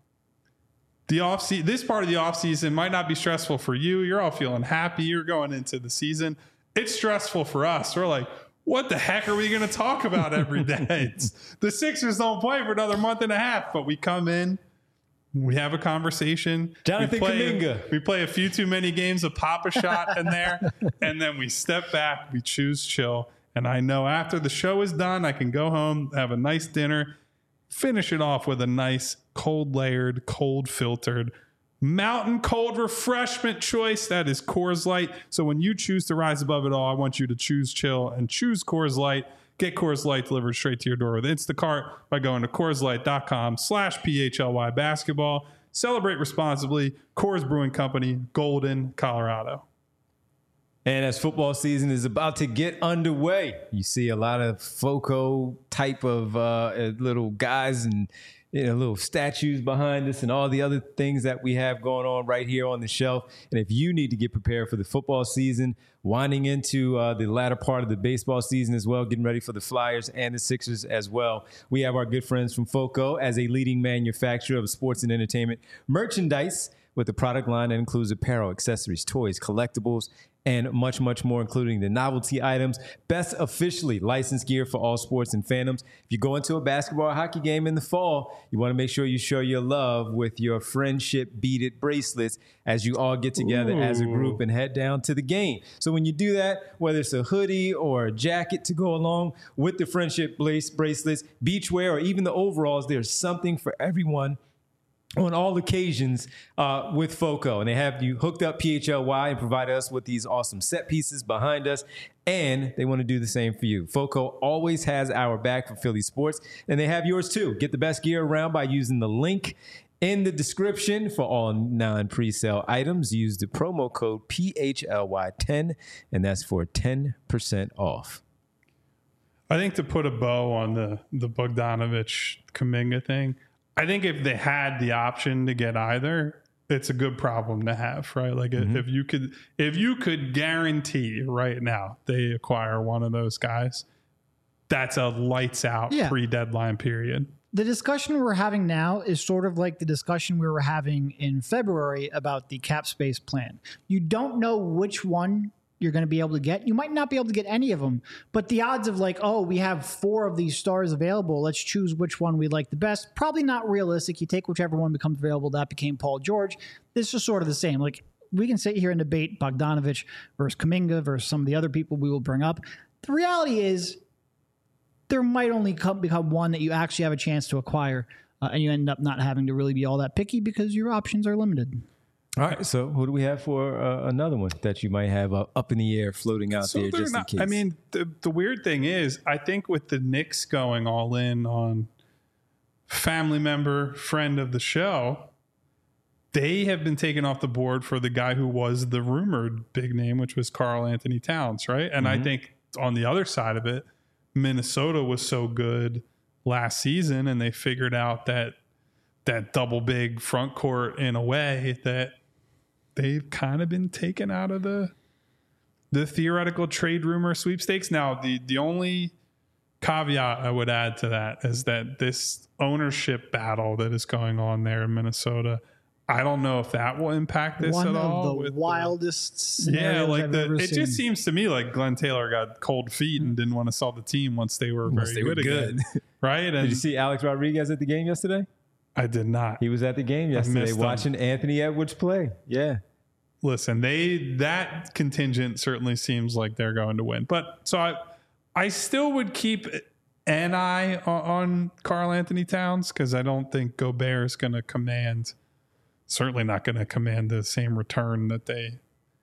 the off season, this part of the off season might not be stressful for you. You're all feeling happy. You're going into the season. It's stressful for us. We're like, what the heck are we going to talk about every day? The Sixers don't play for another month and a half, but we come in, we have a conversation. Jonathan we play, Kuminga. We play a few too many games of Pop a Shot in there, and then we step back, we choose chill. And I know after the show is done, I can go home, have a nice dinner, finish it off with a nice cold layered, cold filtered mountain cold refreshment choice. That is Coors Light. So when you choose to rise above it all, I want you to choose chill and choose Coors Light. Get Coors Light delivered straight to your door with Instacart by going to CoorsLight.com slash PHLY basketball. Celebrate responsibly. Coors Brewing Company, Golden, Colorado. And as football season is about to get underway, you see a lot of FOCO type of uh, little guys and you know, little statues behind us and all the other things that we have going on right here on the shelf. And if you need to get prepared for the football season, winding into uh, the latter part of the baseball season as well, getting ready for the Flyers and the Sixers as well, we have our good friends from FOCO as a leading manufacturer of sports and entertainment merchandise. with a product line that includes apparel, accessories, toys, collectibles, and much, much more, including the novelty items. Best officially licensed gear for all sports and fandoms. If you go into a basketball or hockey game in the fall, you want to make sure you show your love with your friendship beaded bracelets as you all get together Ooh. as a group and head down to the game. So when you do that, whether it's a hoodie or a jacket to go along with the friendship bracelets, beachwear, or even the overalls, there's something for everyone on all occasions uh, with FOCO. And they have you hooked up P H L Y and provide us with these awesome set pieces behind us. And they want to do the same for you. FOCO always has our back for Philly sports, and they have yours too. Get the best gear around by using the link in the description for all non-presale items. Use the promo code P H L Y ten, and that's for ten percent off. I think to put a bow on the, the Bogdanovich Kuminga thing, I think if they had the option to get either, it's a good problem to have, right? Like mm-hmm. if you could, if you could guarantee right now they acquire one of those guys, that's a lights out yeah. pre-deadline period. The discussion we're having now is sort of like the discussion we were having in February about the cap space plan. You don't know which one you're going to be able to get. You might not be able to get any of them, but the odds of like, oh, we have four of these stars available, let's choose which one we like the best, probably not realistic. You take whichever one becomes available. That became Paul George. This is sort of the same. Like, we can sit here and debate Bogdanovich versus Kuminga versus some of the other people we will bring up. The reality is there might only come, become one that you actually have a chance to acquire, uh, and you end up not having to really be all that picky because your options are limited. All right, so who do we have for uh, another one that you might have uh, up in the air, floating out so there just not, in case? I mean, the, the weird thing is, I think with the Knicks going all in on family member, friend of the show, they have been taken off the board for the guy who was the rumored big name, which was Karl Anthony Towns, right? And mm-hmm. I think on the other side of it, Minnesota was so good last season, and they figured out that that double big front court in a way that they've kind of been taken out of the the theoretical trade rumor sweepstakes. Now, the the only caveat I would add to that is that this ownership battle that is going on there in Minnesota, I don't know if that will impact this One at all. One of the wildest the, yeah, like I've the ever it seen. just seems to me like Glenn Taylor got cold feet and didn't want to sell the team once they were once very they good, were good. again, right? And did you see Alex Rodriguez at the game yesterday? I did not. He was at the game yesterday watching Anthony Edwards play. Yeah. Listen, they that contingent certainly seems like they're going to win. But so I I still would keep an eye on, on Karl Anthony Towns, because I don't think Gobert is going to command, certainly not going to command the same return that they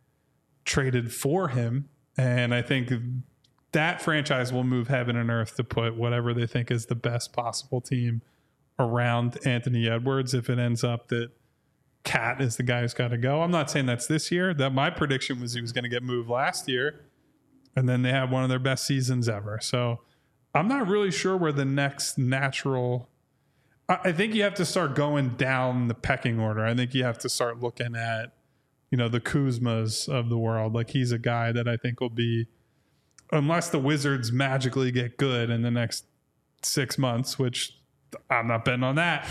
traded for him. And I think that franchise will move heaven and earth to put whatever they think is the best possible team around Anthony Edwards if it ends up that Cat is the guy who's got to go. I'm not saying that's this year. That my prediction was he was going to get moved last year, and then they had one of their best seasons ever. So I'm not really sure where the next natural. I, I think you have to start going down the pecking order. I think you have to start looking at, you know, the Kuzmas of the world. Like, he's a guy that I think will be, unless the Wizards magically get good in the next six months, which I'm not betting on that.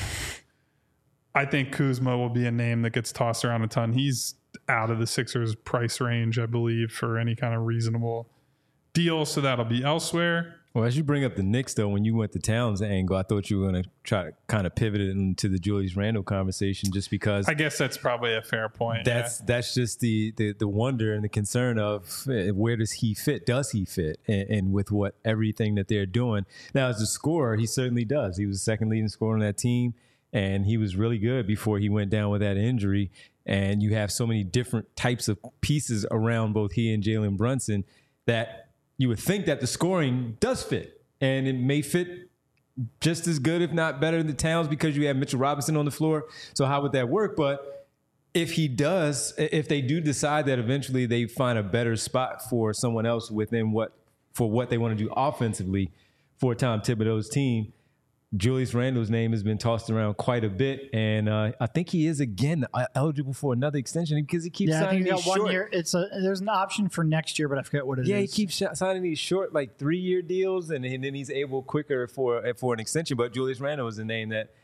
I think Kuzma will be a name that gets tossed around a ton. He's out of the Sixers price range, I believe, for any kind of reasonable deal. So that'll be elsewhere. Well, as you bring up the Knicks, though, when you went to Towns angle, I thought you were going to try to kind of pivot it into the Julius Randle conversation, just because I guess that's probably a fair point. That's yeah. that's just the, the the wonder and the concern of where does he fit? Does he fit? And, and with what everything that they're doing now, as a scorer, he certainly does. He was the second leading scorer on that team, and he was really good before he went down with that injury. And you have so many different types of pieces around both he and Jalen Brunson that you would think that the scoring does fit, and it may fit just as good, if not better, than the Towns, because you have Mitchell Robinson on the floor. So how would that work? But if he does, if they do decide that eventually they find a better spot for someone else within what, for what they want to do offensively for Tom Thibodeau's team, Julius Randle's name has been tossed around quite a bit, and uh, I think he is again eligible for another extension because he keeps yeah, signing I think he these got short. one year. It's a there's an option for next year, but I forget what it yeah, is. Yeah, he keeps sh- signing these short, like three year deals, and, and then he's able quicker for for an extension. But Julius Randle is a name that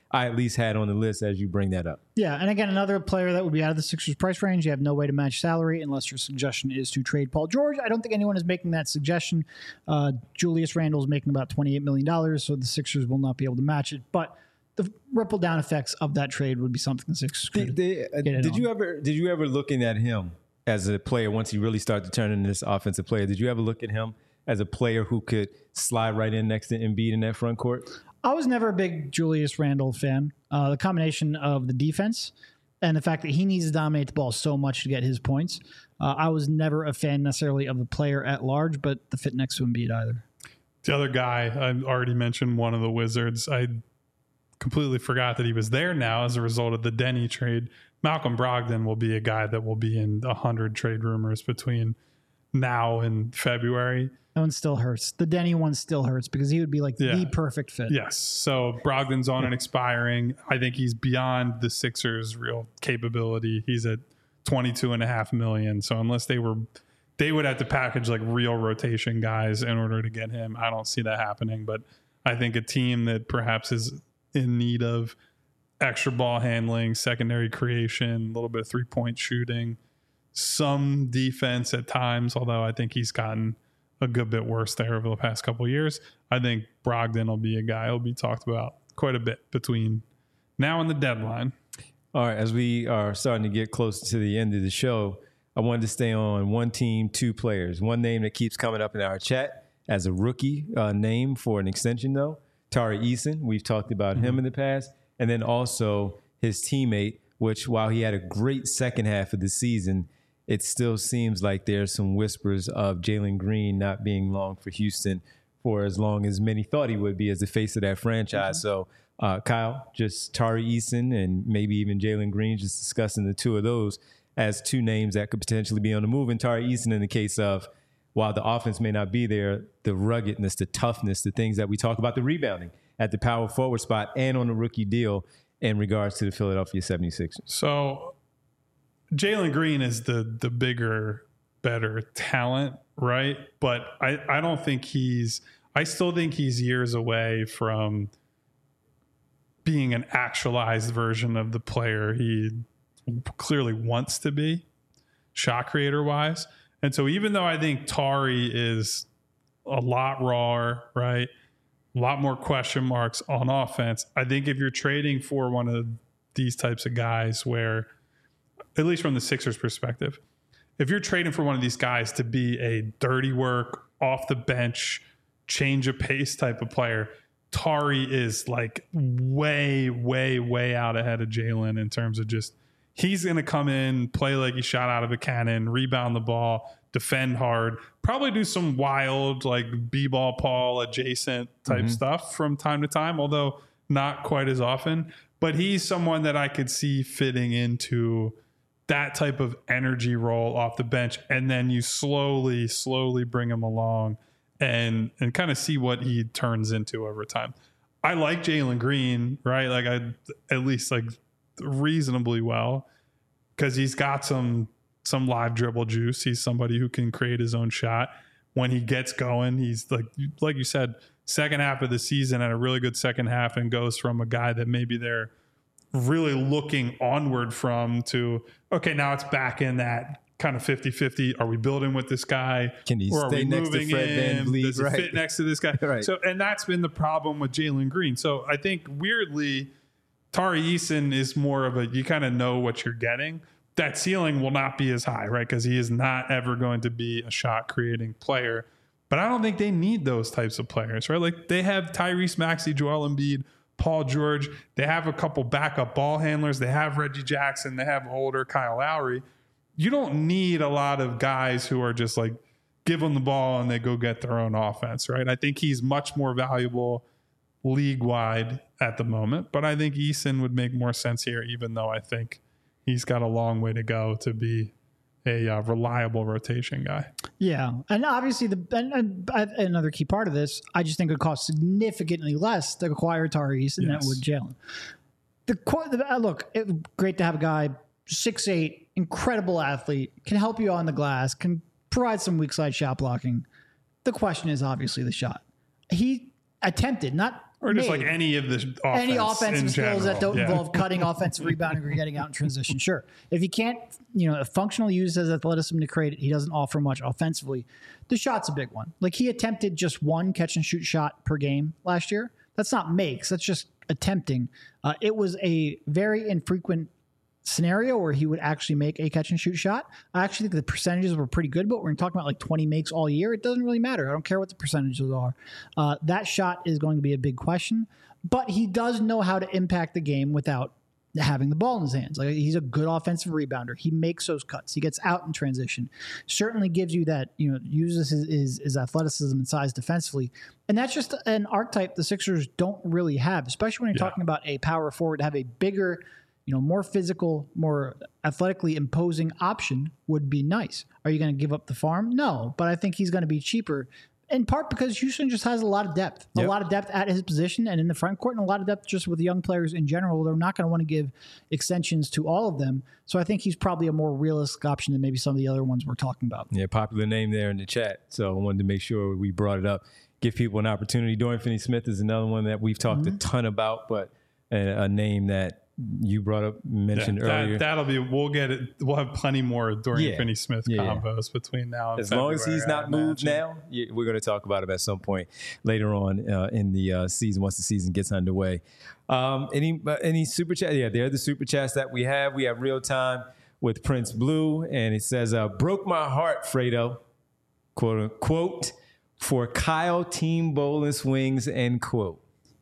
I at least had on the list as you bring that up. Yeah, and again, another player that would be out of the Sixers price range. You have no way to match salary unless your suggestion is to trade Paul George. I don't think anyone is making that suggestion. Uh, Julius Randle is making about twenty-eight million dollars, so the Sixers will not be able to match it. But the ripple down effects of that trade would be something the Sixers could Did, get in did on. you ever did you ever looking at him as a player once he really started to turn into this offensive player? Did you ever look at him as a player who could slide right in next to Embiid in that front court? I was never a big Julius Randle fan. Uh, the combination of the defense and the fact that he needs to dominate the ball so much to get his points. Uh, I was never a fan necessarily of the player at large, but the fit next to Embiid either. The other guy, I already mentioned one of the Wizards. I completely forgot that he was there now as a result of the Denny trade. Malcolm Brogdon will be a guy that will be in one hundred trade rumors between now and February. That one still hurts. The Denny one still hurts because he would be like Yeah. the perfect fit. Yes. So Brogdon's on and expiring. I think he's beyond the Sixers' real capability. He's at twenty-two and a half million. So unless they were, they would have to package like real rotation guys in order to get him. I don't see that happening, but I think a team that perhaps is in need of extra ball handling, secondary creation, a little bit of three point shooting, some defense at times, although I think he's gotten a good bit worse there over the past couple of years. I think Brogdon will be a guy who'll be talked about quite a bit between now and the deadline. All right, as we are starting to get close to the end of the show, I wanted to stay on one team, two players. One name that keeps coming up in our chat as a rookie uh, name for an extension, though, Tari Eason. We've talked about mm-hmm. him in the past. And then also his teammate, which while he had a great second half of the season, it still seems like there's some whispers of Jalen Green not being long for Houston for as long as many thought he would be as the face of that franchise. Mm-hmm. So, uh, Kyle, just Tari Eason and maybe even Jalen Green, just discussing the two of those as two names that could potentially be on the move. And Tari Eason in the case of, while the offense may not be there, the ruggedness, the toughness, the things that we talk about, the rebounding at the power forward spot and on the rookie deal in regards to the Philadelphia seventy-sixers. So Jalen Green is the the bigger, better talent, right? But I, I don't think he's – I still think he's years away from being an actualized version of the player he clearly wants to be, shot creator-wise. And so even though I think Tari is a lot rawer, right, a lot more question marks on offense, I think if you're trading for one of these types of guys where, at least from the Sixers perspective, if you're trading for one of these guys to be a dirty work, off the bench, change of pace type of player, Tari is like way, way, way out ahead of Jalen in terms of just, he's going to come in, play like he shot out of a cannon, rebound the ball, defend hard, probably do some wild, like B-ball Paul adjacent type mm-hmm. stuff from time to time, although not quite as often. But he's someone that I could see fitting into that type of energy role off the bench. And then you slowly, slowly bring him along and and kind of see what he turns into over time. I like Jalen Green, right? Like I at least like reasonably well, because he's got some some live dribble juice. He's somebody who can create his own shot. When he gets going, he's like like you said, second half of the season and a really good second half, and goes from a guy that maybe they're really looking onward from to, okay, now it's back in that kind of fifty-fifty. Are we building with this guy? Can he or stay next to Fred VanVleet? Does he right. fit next to this guy? Right. So, and that's been the problem with Jalen Green. So I think weirdly, Tari Eason is more of a, you kind of know what you're getting. That ceiling will not be as high, right? Because he is not ever going to be a shot creating player. But I don't think they need those types of players, right? Like they have Tyrese Maxey, Joel Embiid, Paul George. They have a couple backup ball handlers. They have Reggie Jackson. They have older Kyle Lowry. You don't need a lot of guys who are just like, give them the ball and they go get their own offense, right? I think he's much more valuable league-wide at the moment. But I think Eason would make more sense here, even though I think he's got a long way to go to be a uh, reliable rotation guy. Yeah. And obviously, the and, and another key part of this, I just think it would cost significantly less to acquire Tari Eason than it would Jalen. The, the Look, it, great to have a guy, six eight, incredible athlete, can help you on the glass, can provide some weak side shot blocking. The question is obviously the shot. He attempted, not Or just Maybe. like any of the offense Any in offensive skills that general. don't Yeah. involve cutting, offensive rebounding, or getting out in transition. Sure. If he can't, you know, functionally use his athleticism to create it, he doesn't offer much offensively. The shot's a big one. Like he attempted just one catch and shoot shot per game last year. That's not makes. That's just attempting. Uh, it was a very infrequent scenario where he would actually make a catch and shoot shot. I actually think the percentages were pretty good, but when we're talking about like twenty makes all year, it doesn't really matter. I don't care what the percentages are. Uh, that shot is going to be a big question, but he does know how to impact the game without having the ball in his hands. Like he's a good offensive rebounder. He makes those cuts. He gets out in transition. Certainly gives you that, you know, uses his, his, his athleticism and size defensively. And that's just an archetype the Sixers don't really have, especially when you're Yeah. talking about a power forward to have a bigger, you know, more physical, more athletically imposing option would be nice. Are you going to give up the farm? No, but I think he's going to be cheaper in part because Houston just has a lot of depth, Yep. a lot of depth at his position and in the front court, and a lot of depth just with young players in general. They're not going to want to give extensions to all of them. So I think he's probably a more realistic option than maybe some of the other ones we're talking about. Yeah, popular name there in the chat. So I wanted to make sure we brought it up, give people an opportunity. Dorian Finney-Smith is another one that we've talked Mm-hmm. a ton about, but a, a name that you brought up, mentioned Yeah, earlier. that, that'll be. We'll get it. We'll have plenty more Dorian Yeah. Finney-Smith Yeah, yeah. combos between now and As long as February, he's I not moved imagine. now, yeah, we're going to talk about him at some point later on uh, in the uh, season once the season gets underway. Um, any uh, any super chat? Yeah, they're the super chats that we have. We have real time with Prince Blue, and it says, uh, "Broke my heart, Fredo." Quote unquote for Kyle Team Bowling Swings. End quote.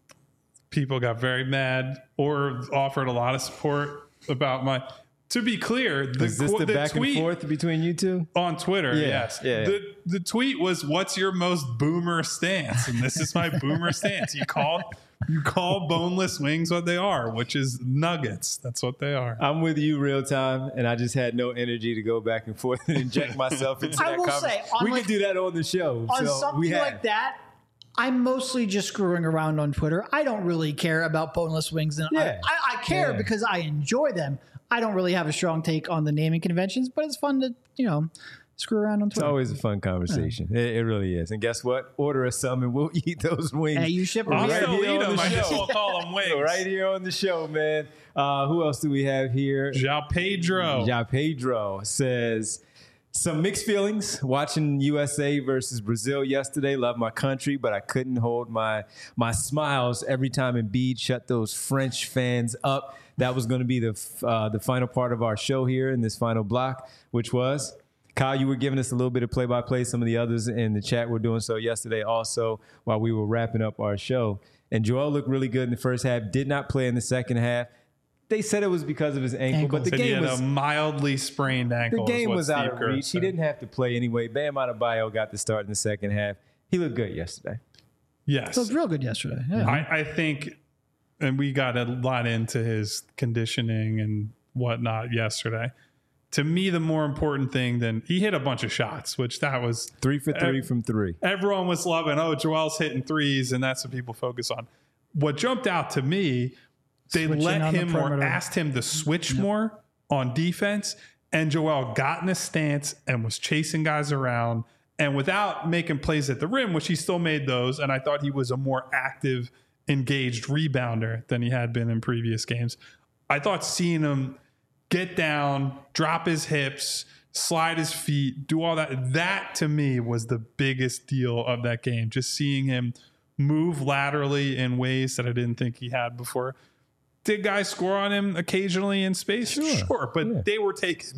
People got very mad or offered a lot of support about my. To be clear, the, Is this qu- the, the back tweet and forth between you two? on Twitter, Yeah, yes. yeah, yeah. The the tweet was, "What's your most boomer stance?" And this is my boomer stance. You call you call boneless wings what they are, which is nuggets. That's what they are. I'm with you real time, and I just had no energy to go back and forth and inject myself into I that will conversation. say, on we like- could do that on the show. On so something we have. like that, I'm mostly just screwing around on Twitter. I don't really care about boneless wings. And Yeah. I, I, I care Yeah. because I enjoy them. I don't really have a strong take on the naming conventions, but it's fun to, you know, screw around on It's Twitter. always a fun conversation. It, it really is. And guess what? Order us some and we'll eat those wings. Hey, you ship I'll them Right here. still here eat on them. the I just show. won't call them wings. Right here on the show, man. Uh, who else do we have here? Ja Pedro. Ja Pedro says, some mixed feelings watching U S A versus Brazil yesterday. Love my country, but I couldn't hold my my smiles every time Embiid shut those French fans up. That was going to be the f- uh, the final part of our show here in this final block, which was, Kyle, you were giving us a little bit of play-by-play. Some of the others in the chat were doing so yesterday also while we were wrapping up our show. And Joel looked really good in the first half, did not play in the second half. They said it was because of his ankle, Ankle. but the Said he game had was a mildly sprained ankle. the is game what was out Steve of Kerr reach. He said. didn't have to play anyway. Bam Adebayo got the start in the second half. He looked good yesterday. Yes. It was real good yesterday. Yeah. I, I think, and we got a lot into his conditioning and whatnot yesterday. To me, the more important thing than he hit a bunch of shots, which that was Three for three Ev- from three. everyone was loving. Oh, Joel's hitting threes, and that's what people focus on. What jumped out to me, they Switching let on the him or perimeter. asked him to switch more on defense, and Joel got in a stance and was chasing guys around, and without making plays at the rim, which he still made those. And I thought he was a more active, engaged rebounder than he had been in previous games. I thought seeing him get down, drop his hips, slide his feet, do all that, that to me was the biggest deal of that game. Just seeing him move laterally in ways that I didn't think he had before. Did guys score on him occasionally in space? Sure. Sure, but Yeah. they were taking,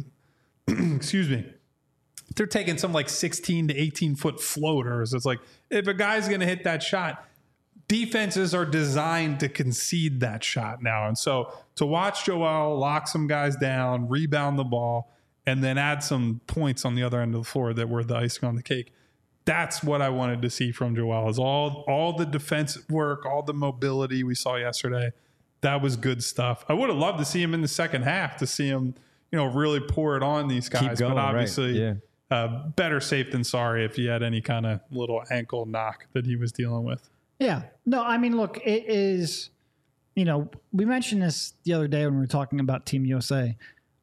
excuse me, they're taking some like sixteen to eighteen foot floaters. It's like, if a guy's going to hit that shot, defenses are designed to concede that shot now. And so to watch Joel lock some guys down, rebound the ball, and then add some points on the other end of the floor that were the icing on the cake, that's what I wanted to see from Joel, is all, all the defensive work, all the mobility we saw yesterday. That was good stuff. I would have loved to see him in the second half, to see him, you know, really pour it on these guys. going, but right. obviously, Yeah. uh, better safe than sorry if he had any kind of little ankle knock that he was dealing with. Yeah. No, I mean, look, it is, you know, we mentioned this the other day when we were talking about Team U S A.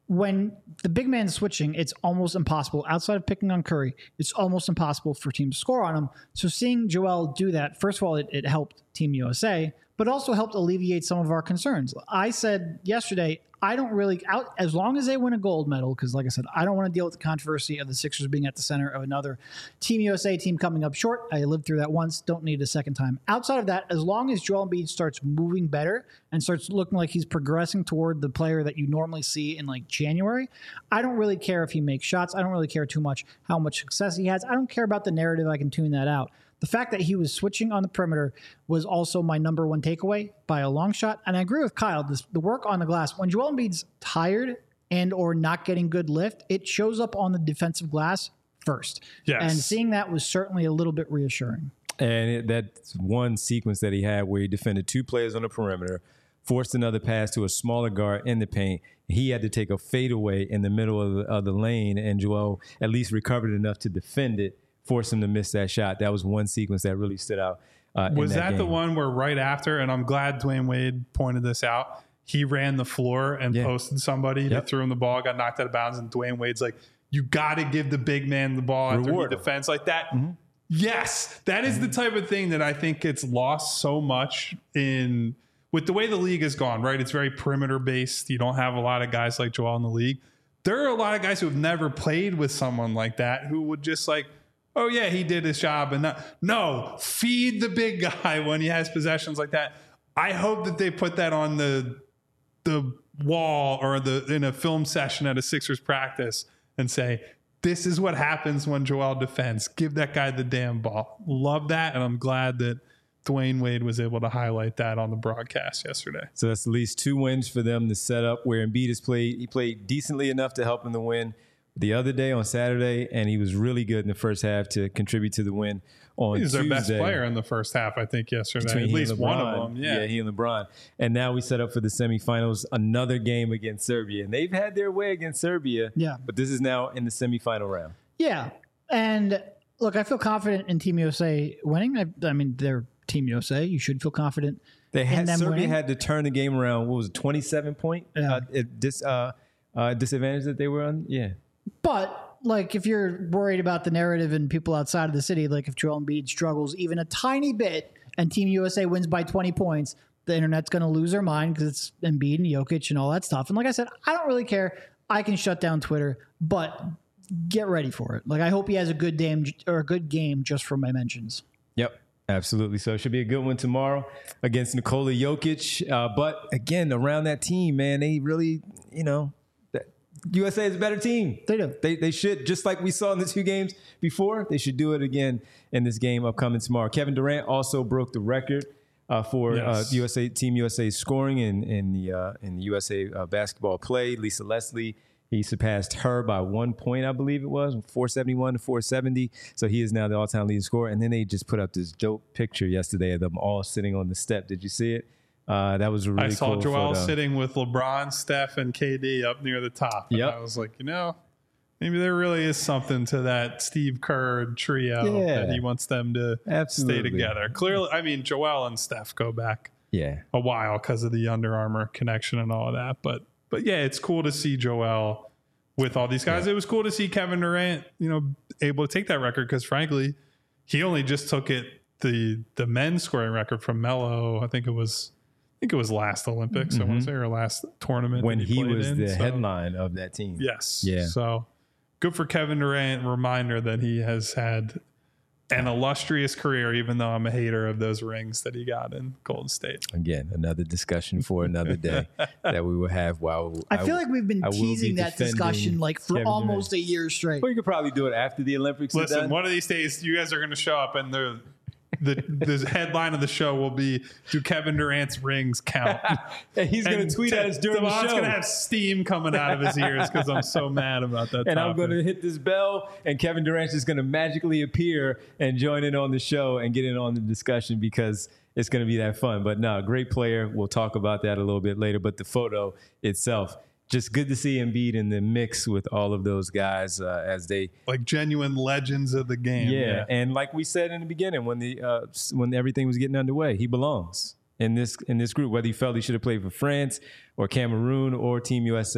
when the big man's switching, it's almost impossible. Outside of picking on Curry, it's almost impossible for teams to score on him. So seeing Joel do that, first of all, it, it helped Team U S A, but also helped alleviate some of our concerns. I said yesterday, I don't really, out as long as they win a gold medal, because like I said, I don't want to deal with the controversy of the Sixers being at the center of another Team U S A team coming up short. I lived through that once, don't need it a second time. Outside of that, as long as Joel Embiid starts moving better and starts looking like he's progressing toward the player that you normally see in like January, I don't really care if he makes shots. I don't really care too much how much success he has. I don't care about the narrative. I can tune that out. The fact that he was switching on the perimeter was also my number one takeaway by a long shot. And I agree with Kyle, this, the work on the glass, when Joel Embiid's tired and or not getting good lift, it shows up on the defensive glass first. Yes. And seeing that was certainly a little bit reassuring. And it, that's one sequence that he had where he defended two players on the perimeter, forced another pass to a smaller guard in the paint. He had to take a fadeaway in the middle of the, of the lane, and Joel at least recovered enough to defend it, force him to miss that shot. That was one sequence that really stood out. Uh, was in that, that game. the one where right after, and I'm glad Dwayne Wade pointed this out, he ran the floor and yeah. posted somebody Yep. that threw him the ball, got knocked out of bounds, and Dwayne Wade's like, you got to give the big man the ball after Reward he him. defends like that. Mm-hmm. Yes, that is the type of thing that I think gets lost so much in with the way the league has gone, right? It's very perimeter based. You don't have a lot of guys like Joel in the league. There are a lot of guys who have never played with someone like that who would just like, oh, yeah, he did his job. And not, no, feed the big guy when he has possessions like that. I hope that they put that on the the wall or the in a film session at a Sixers practice and say, this is what happens when Joel defends. Give that guy the damn ball. Love that. And I'm glad that Dwayne Wade was able to highlight that on the broadcast yesterday. So that's at least two wins for them to set up where Embiid has played. He played decently enough to help him to win the other day on Saturday, and he was really good in the first half to contribute to the win on He was Tuesday. their best player in the first half, I think, yesterday. Between At he least and one LeBron. of them. Yeah. yeah, he and LeBron. And now we set up for the semifinals, another game against Serbia. And they've had their way against Serbia, Yeah. but this is now in the semifinal round. Yeah. And look, I feel confident in Team U S A winning. I, I mean, they're Team U S A. You should feel confident They in had them Serbia winning. had to turn the game around. What was it, twenty-seven point Yeah. uh, at dis, uh, uh, disadvantage that they were on? Yeah. But like, if you're worried about the narrative and people outside of the city, like if Joel Embiid struggles even a tiny bit and Team U S A wins by twenty points, the internet's going to lose their mind because it's Embiid and Jokic and all that stuff. And like I said, I don't really care. I can shut down Twitter, but get ready for it. Like, I hope he has a good game or a good game just for my mentions. Yep. Absolutely. So it should be a good one tomorrow against Nikola Jokic. Uh, but again, around that team, man, they really, you know, that U S A is a better team. They do. They, they should, just like we saw in the two games before, they should do it again in this game upcoming tomorrow. Kevin Durant also broke the record uh, for Yes. uh, U S A Team U S A scoring in, in the uh, in the U S A uh, basketball play. Lisa Leslie, he surpassed her by one point, I believe it was, four seventy-one to four seventy. So he is now the all-time leading scorer. And then they just put up this dope picture yesterday of them all sitting on the step. Did you see it? Uh, that was a really I saw cool Joel photo. sitting with LeBron, Steph, and K D up near the top. And Yep. I was like, you know, maybe there really is something to that Steve Kerr trio Yeah. that he wants them to Absolutely. stay together. Clearly, I mean, Joel and Steph go back Yeah. a while because of the Under Armour connection and all of that. But but yeah, it's cool to see Joel with all these guys. Yeah. It was cool to see Kevin Durant, you know, able to take that record because frankly, he only just took it the the men's scoring record from Melo. I think it was I think it was last Olympics, I want to say, or last tournament When that he, played was in. the So, headline of that team. Yes. Yeah. So good for Kevin Durant. Reminder that he has had an illustrious career, even though I'm a hater of those rings that he got in Golden State. Again, another discussion for another day that we will have while I feel like we've been I will be teasing that defending discussion like for Kevin almost a year straight. Well, you could probably do it after the Olympics are Listen, done. one of these days, you guys are going to show up, and the the the headline of the show will be, "Do Kevin Durant's rings count?" And he's going And to tweet Te- at us during the Devon's show. going to have steam coming out of his ears because I'm so mad about that. and topic. I'm going to hit this bell, and Kevin Durant's just going to magically appear and join in on the show and get in on the discussion because it's going to be that fun. But no, great player. We'll talk about that a little bit later. But the photo itself, just good to see Embiid in the mix with all of those guys uh, as they like genuine legends of the game. Yeah, and like we said in the beginning, when the uh, when everything was getting underway, he belongs in this in this group. Whether he felt he should have played for France or Cameroon or Team U S A,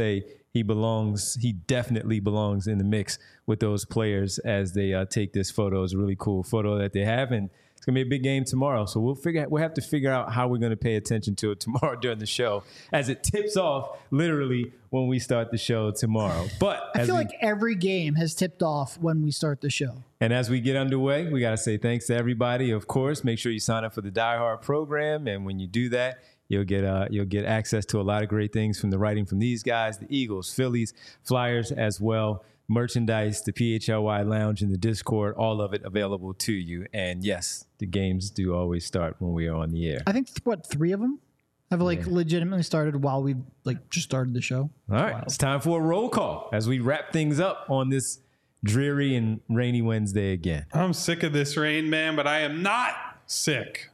he belongs, he definitely belongs in the mix with those players as they uh, take this photo. It's a really cool photo that they have, and it's going to be a big game tomorrow. So we'll figure out, we'll have to figure out how we're going to pay attention to it tomorrow during the show as it tips off literally when we start the show tomorrow. But I as feel we, like every game has tipped off when we start the show. And as we get underway, we got to say thanks to everybody. Of course, make sure you sign up for the Die Hard program. And when you do that, you'll get uh, you'll get access to a lot of great things from the writing from these guys, the Eagles, Phillies, Flyers as well. Merchandise, the P H L Y Lounge, and the Discord, all of it available to you. And yes, the games do always start when we are on the air. I think, what, three of them have like yeah. legitimately started while we like just started the show. All right, it's time for a roll call as we wrap things up on this dreary and rainy Wednesday again. I'm sick of this rain, man, but I am not sick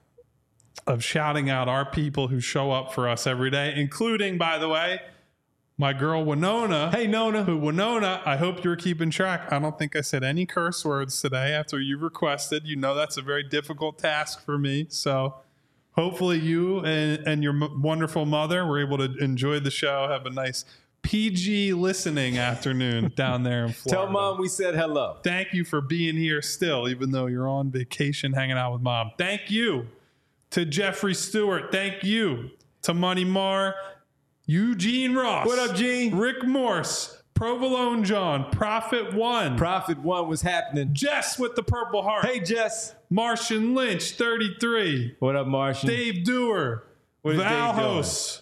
of shouting out our people who show up for us every day, including, by the way, my girl Winona. Hey, Nona. Who, Winona, I hope you're keeping track. I don't think I said any curse words today after you requested. You know that's a very difficult task for me. So hopefully you and, and your m- wonderful mother were able to enjoy the show, have a nice P G listening afternoon down there in Florida. Tell Mom we said hello. Thank you for being here still, even though you're on vacation hanging out with Mom. Thank you to Jeffrey Stewart. Thank you to Money Marr. Eugene Ross. What up, Gene? Rick Morse. Provolone John. Prophet One. Prophet One was happening. Jess with the Purple Heart. Hey, Jess. Martian Lynch, thirty-three. What up, Martian? Dave Dewar. What is Val Dave doing? Host.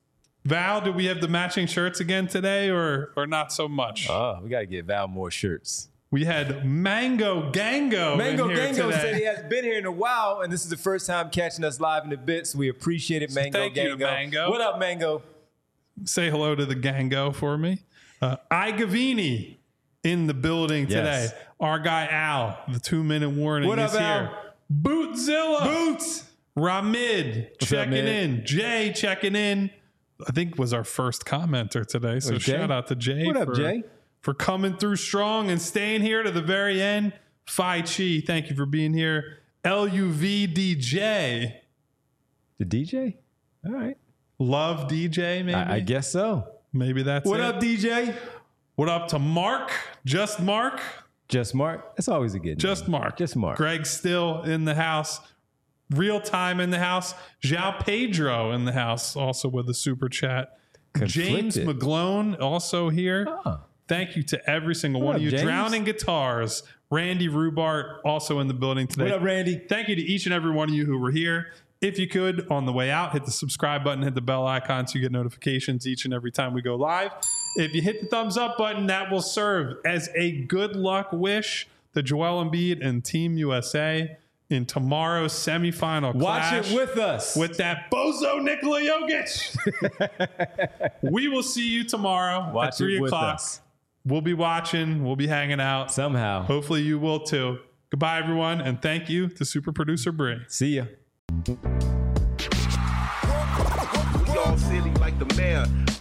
Val, do we have the matching shirts again today or or not so much? Oh, we got to get Val more shirts. We had Mango Gango. Mango in here Gango today. said he has been here in a while, and this is the first time catching us live in a bit, so we appreciate it, Mango Thank Gango. you, Mango. What up, Mango? Say hello to the Gango for me. Uh, Igavini in the building today. Yes. Our guy Al, the two-minute warning What is up, here. Al? Bootzilla. Boots. Ramid What's checking up, man? in. Jay checking in. I think was our first commenter today. So Oh, Jay? shout out to Jay. What up, for, Jay? for coming through strong and staying here to the very end. Phi Chi, thank you for being here. L U V D J. The D J? All right. Love D J, maybe? I, I guess so. Maybe that's What it. up, D J? What up to Mark? Just Mark? Just Mark. That's always a good Just name. Mark. Just Mark. Greg still in the house. Real time in the house. João Pedro in the house, also with a super chat. James Conflicted. McGlone also here. Oh. Thank you to every single What one up, of you. James? Drowning Guitars. Randy Rubart also in the building today. What up, Randy? Thank you to each and every one of you who were here. If you could, on the way out, hit the subscribe button, hit the bell icon so you get notifications each and every time we go live. If you hit the thumbs up button, that will serve as a good luck wish to Joel Embiid and Team U S A in tomorrow's semifinal Watch clash it with us. with that bozo Nikola Jokic. We will see you tomorrow Watch at three it with o'clock. us. We'll be watching. We'll be hanging out. Somehow. Hopefully you will too. Goodbye, everyone, and thank you to super producer Bree. See ya. We all silly like the mayor.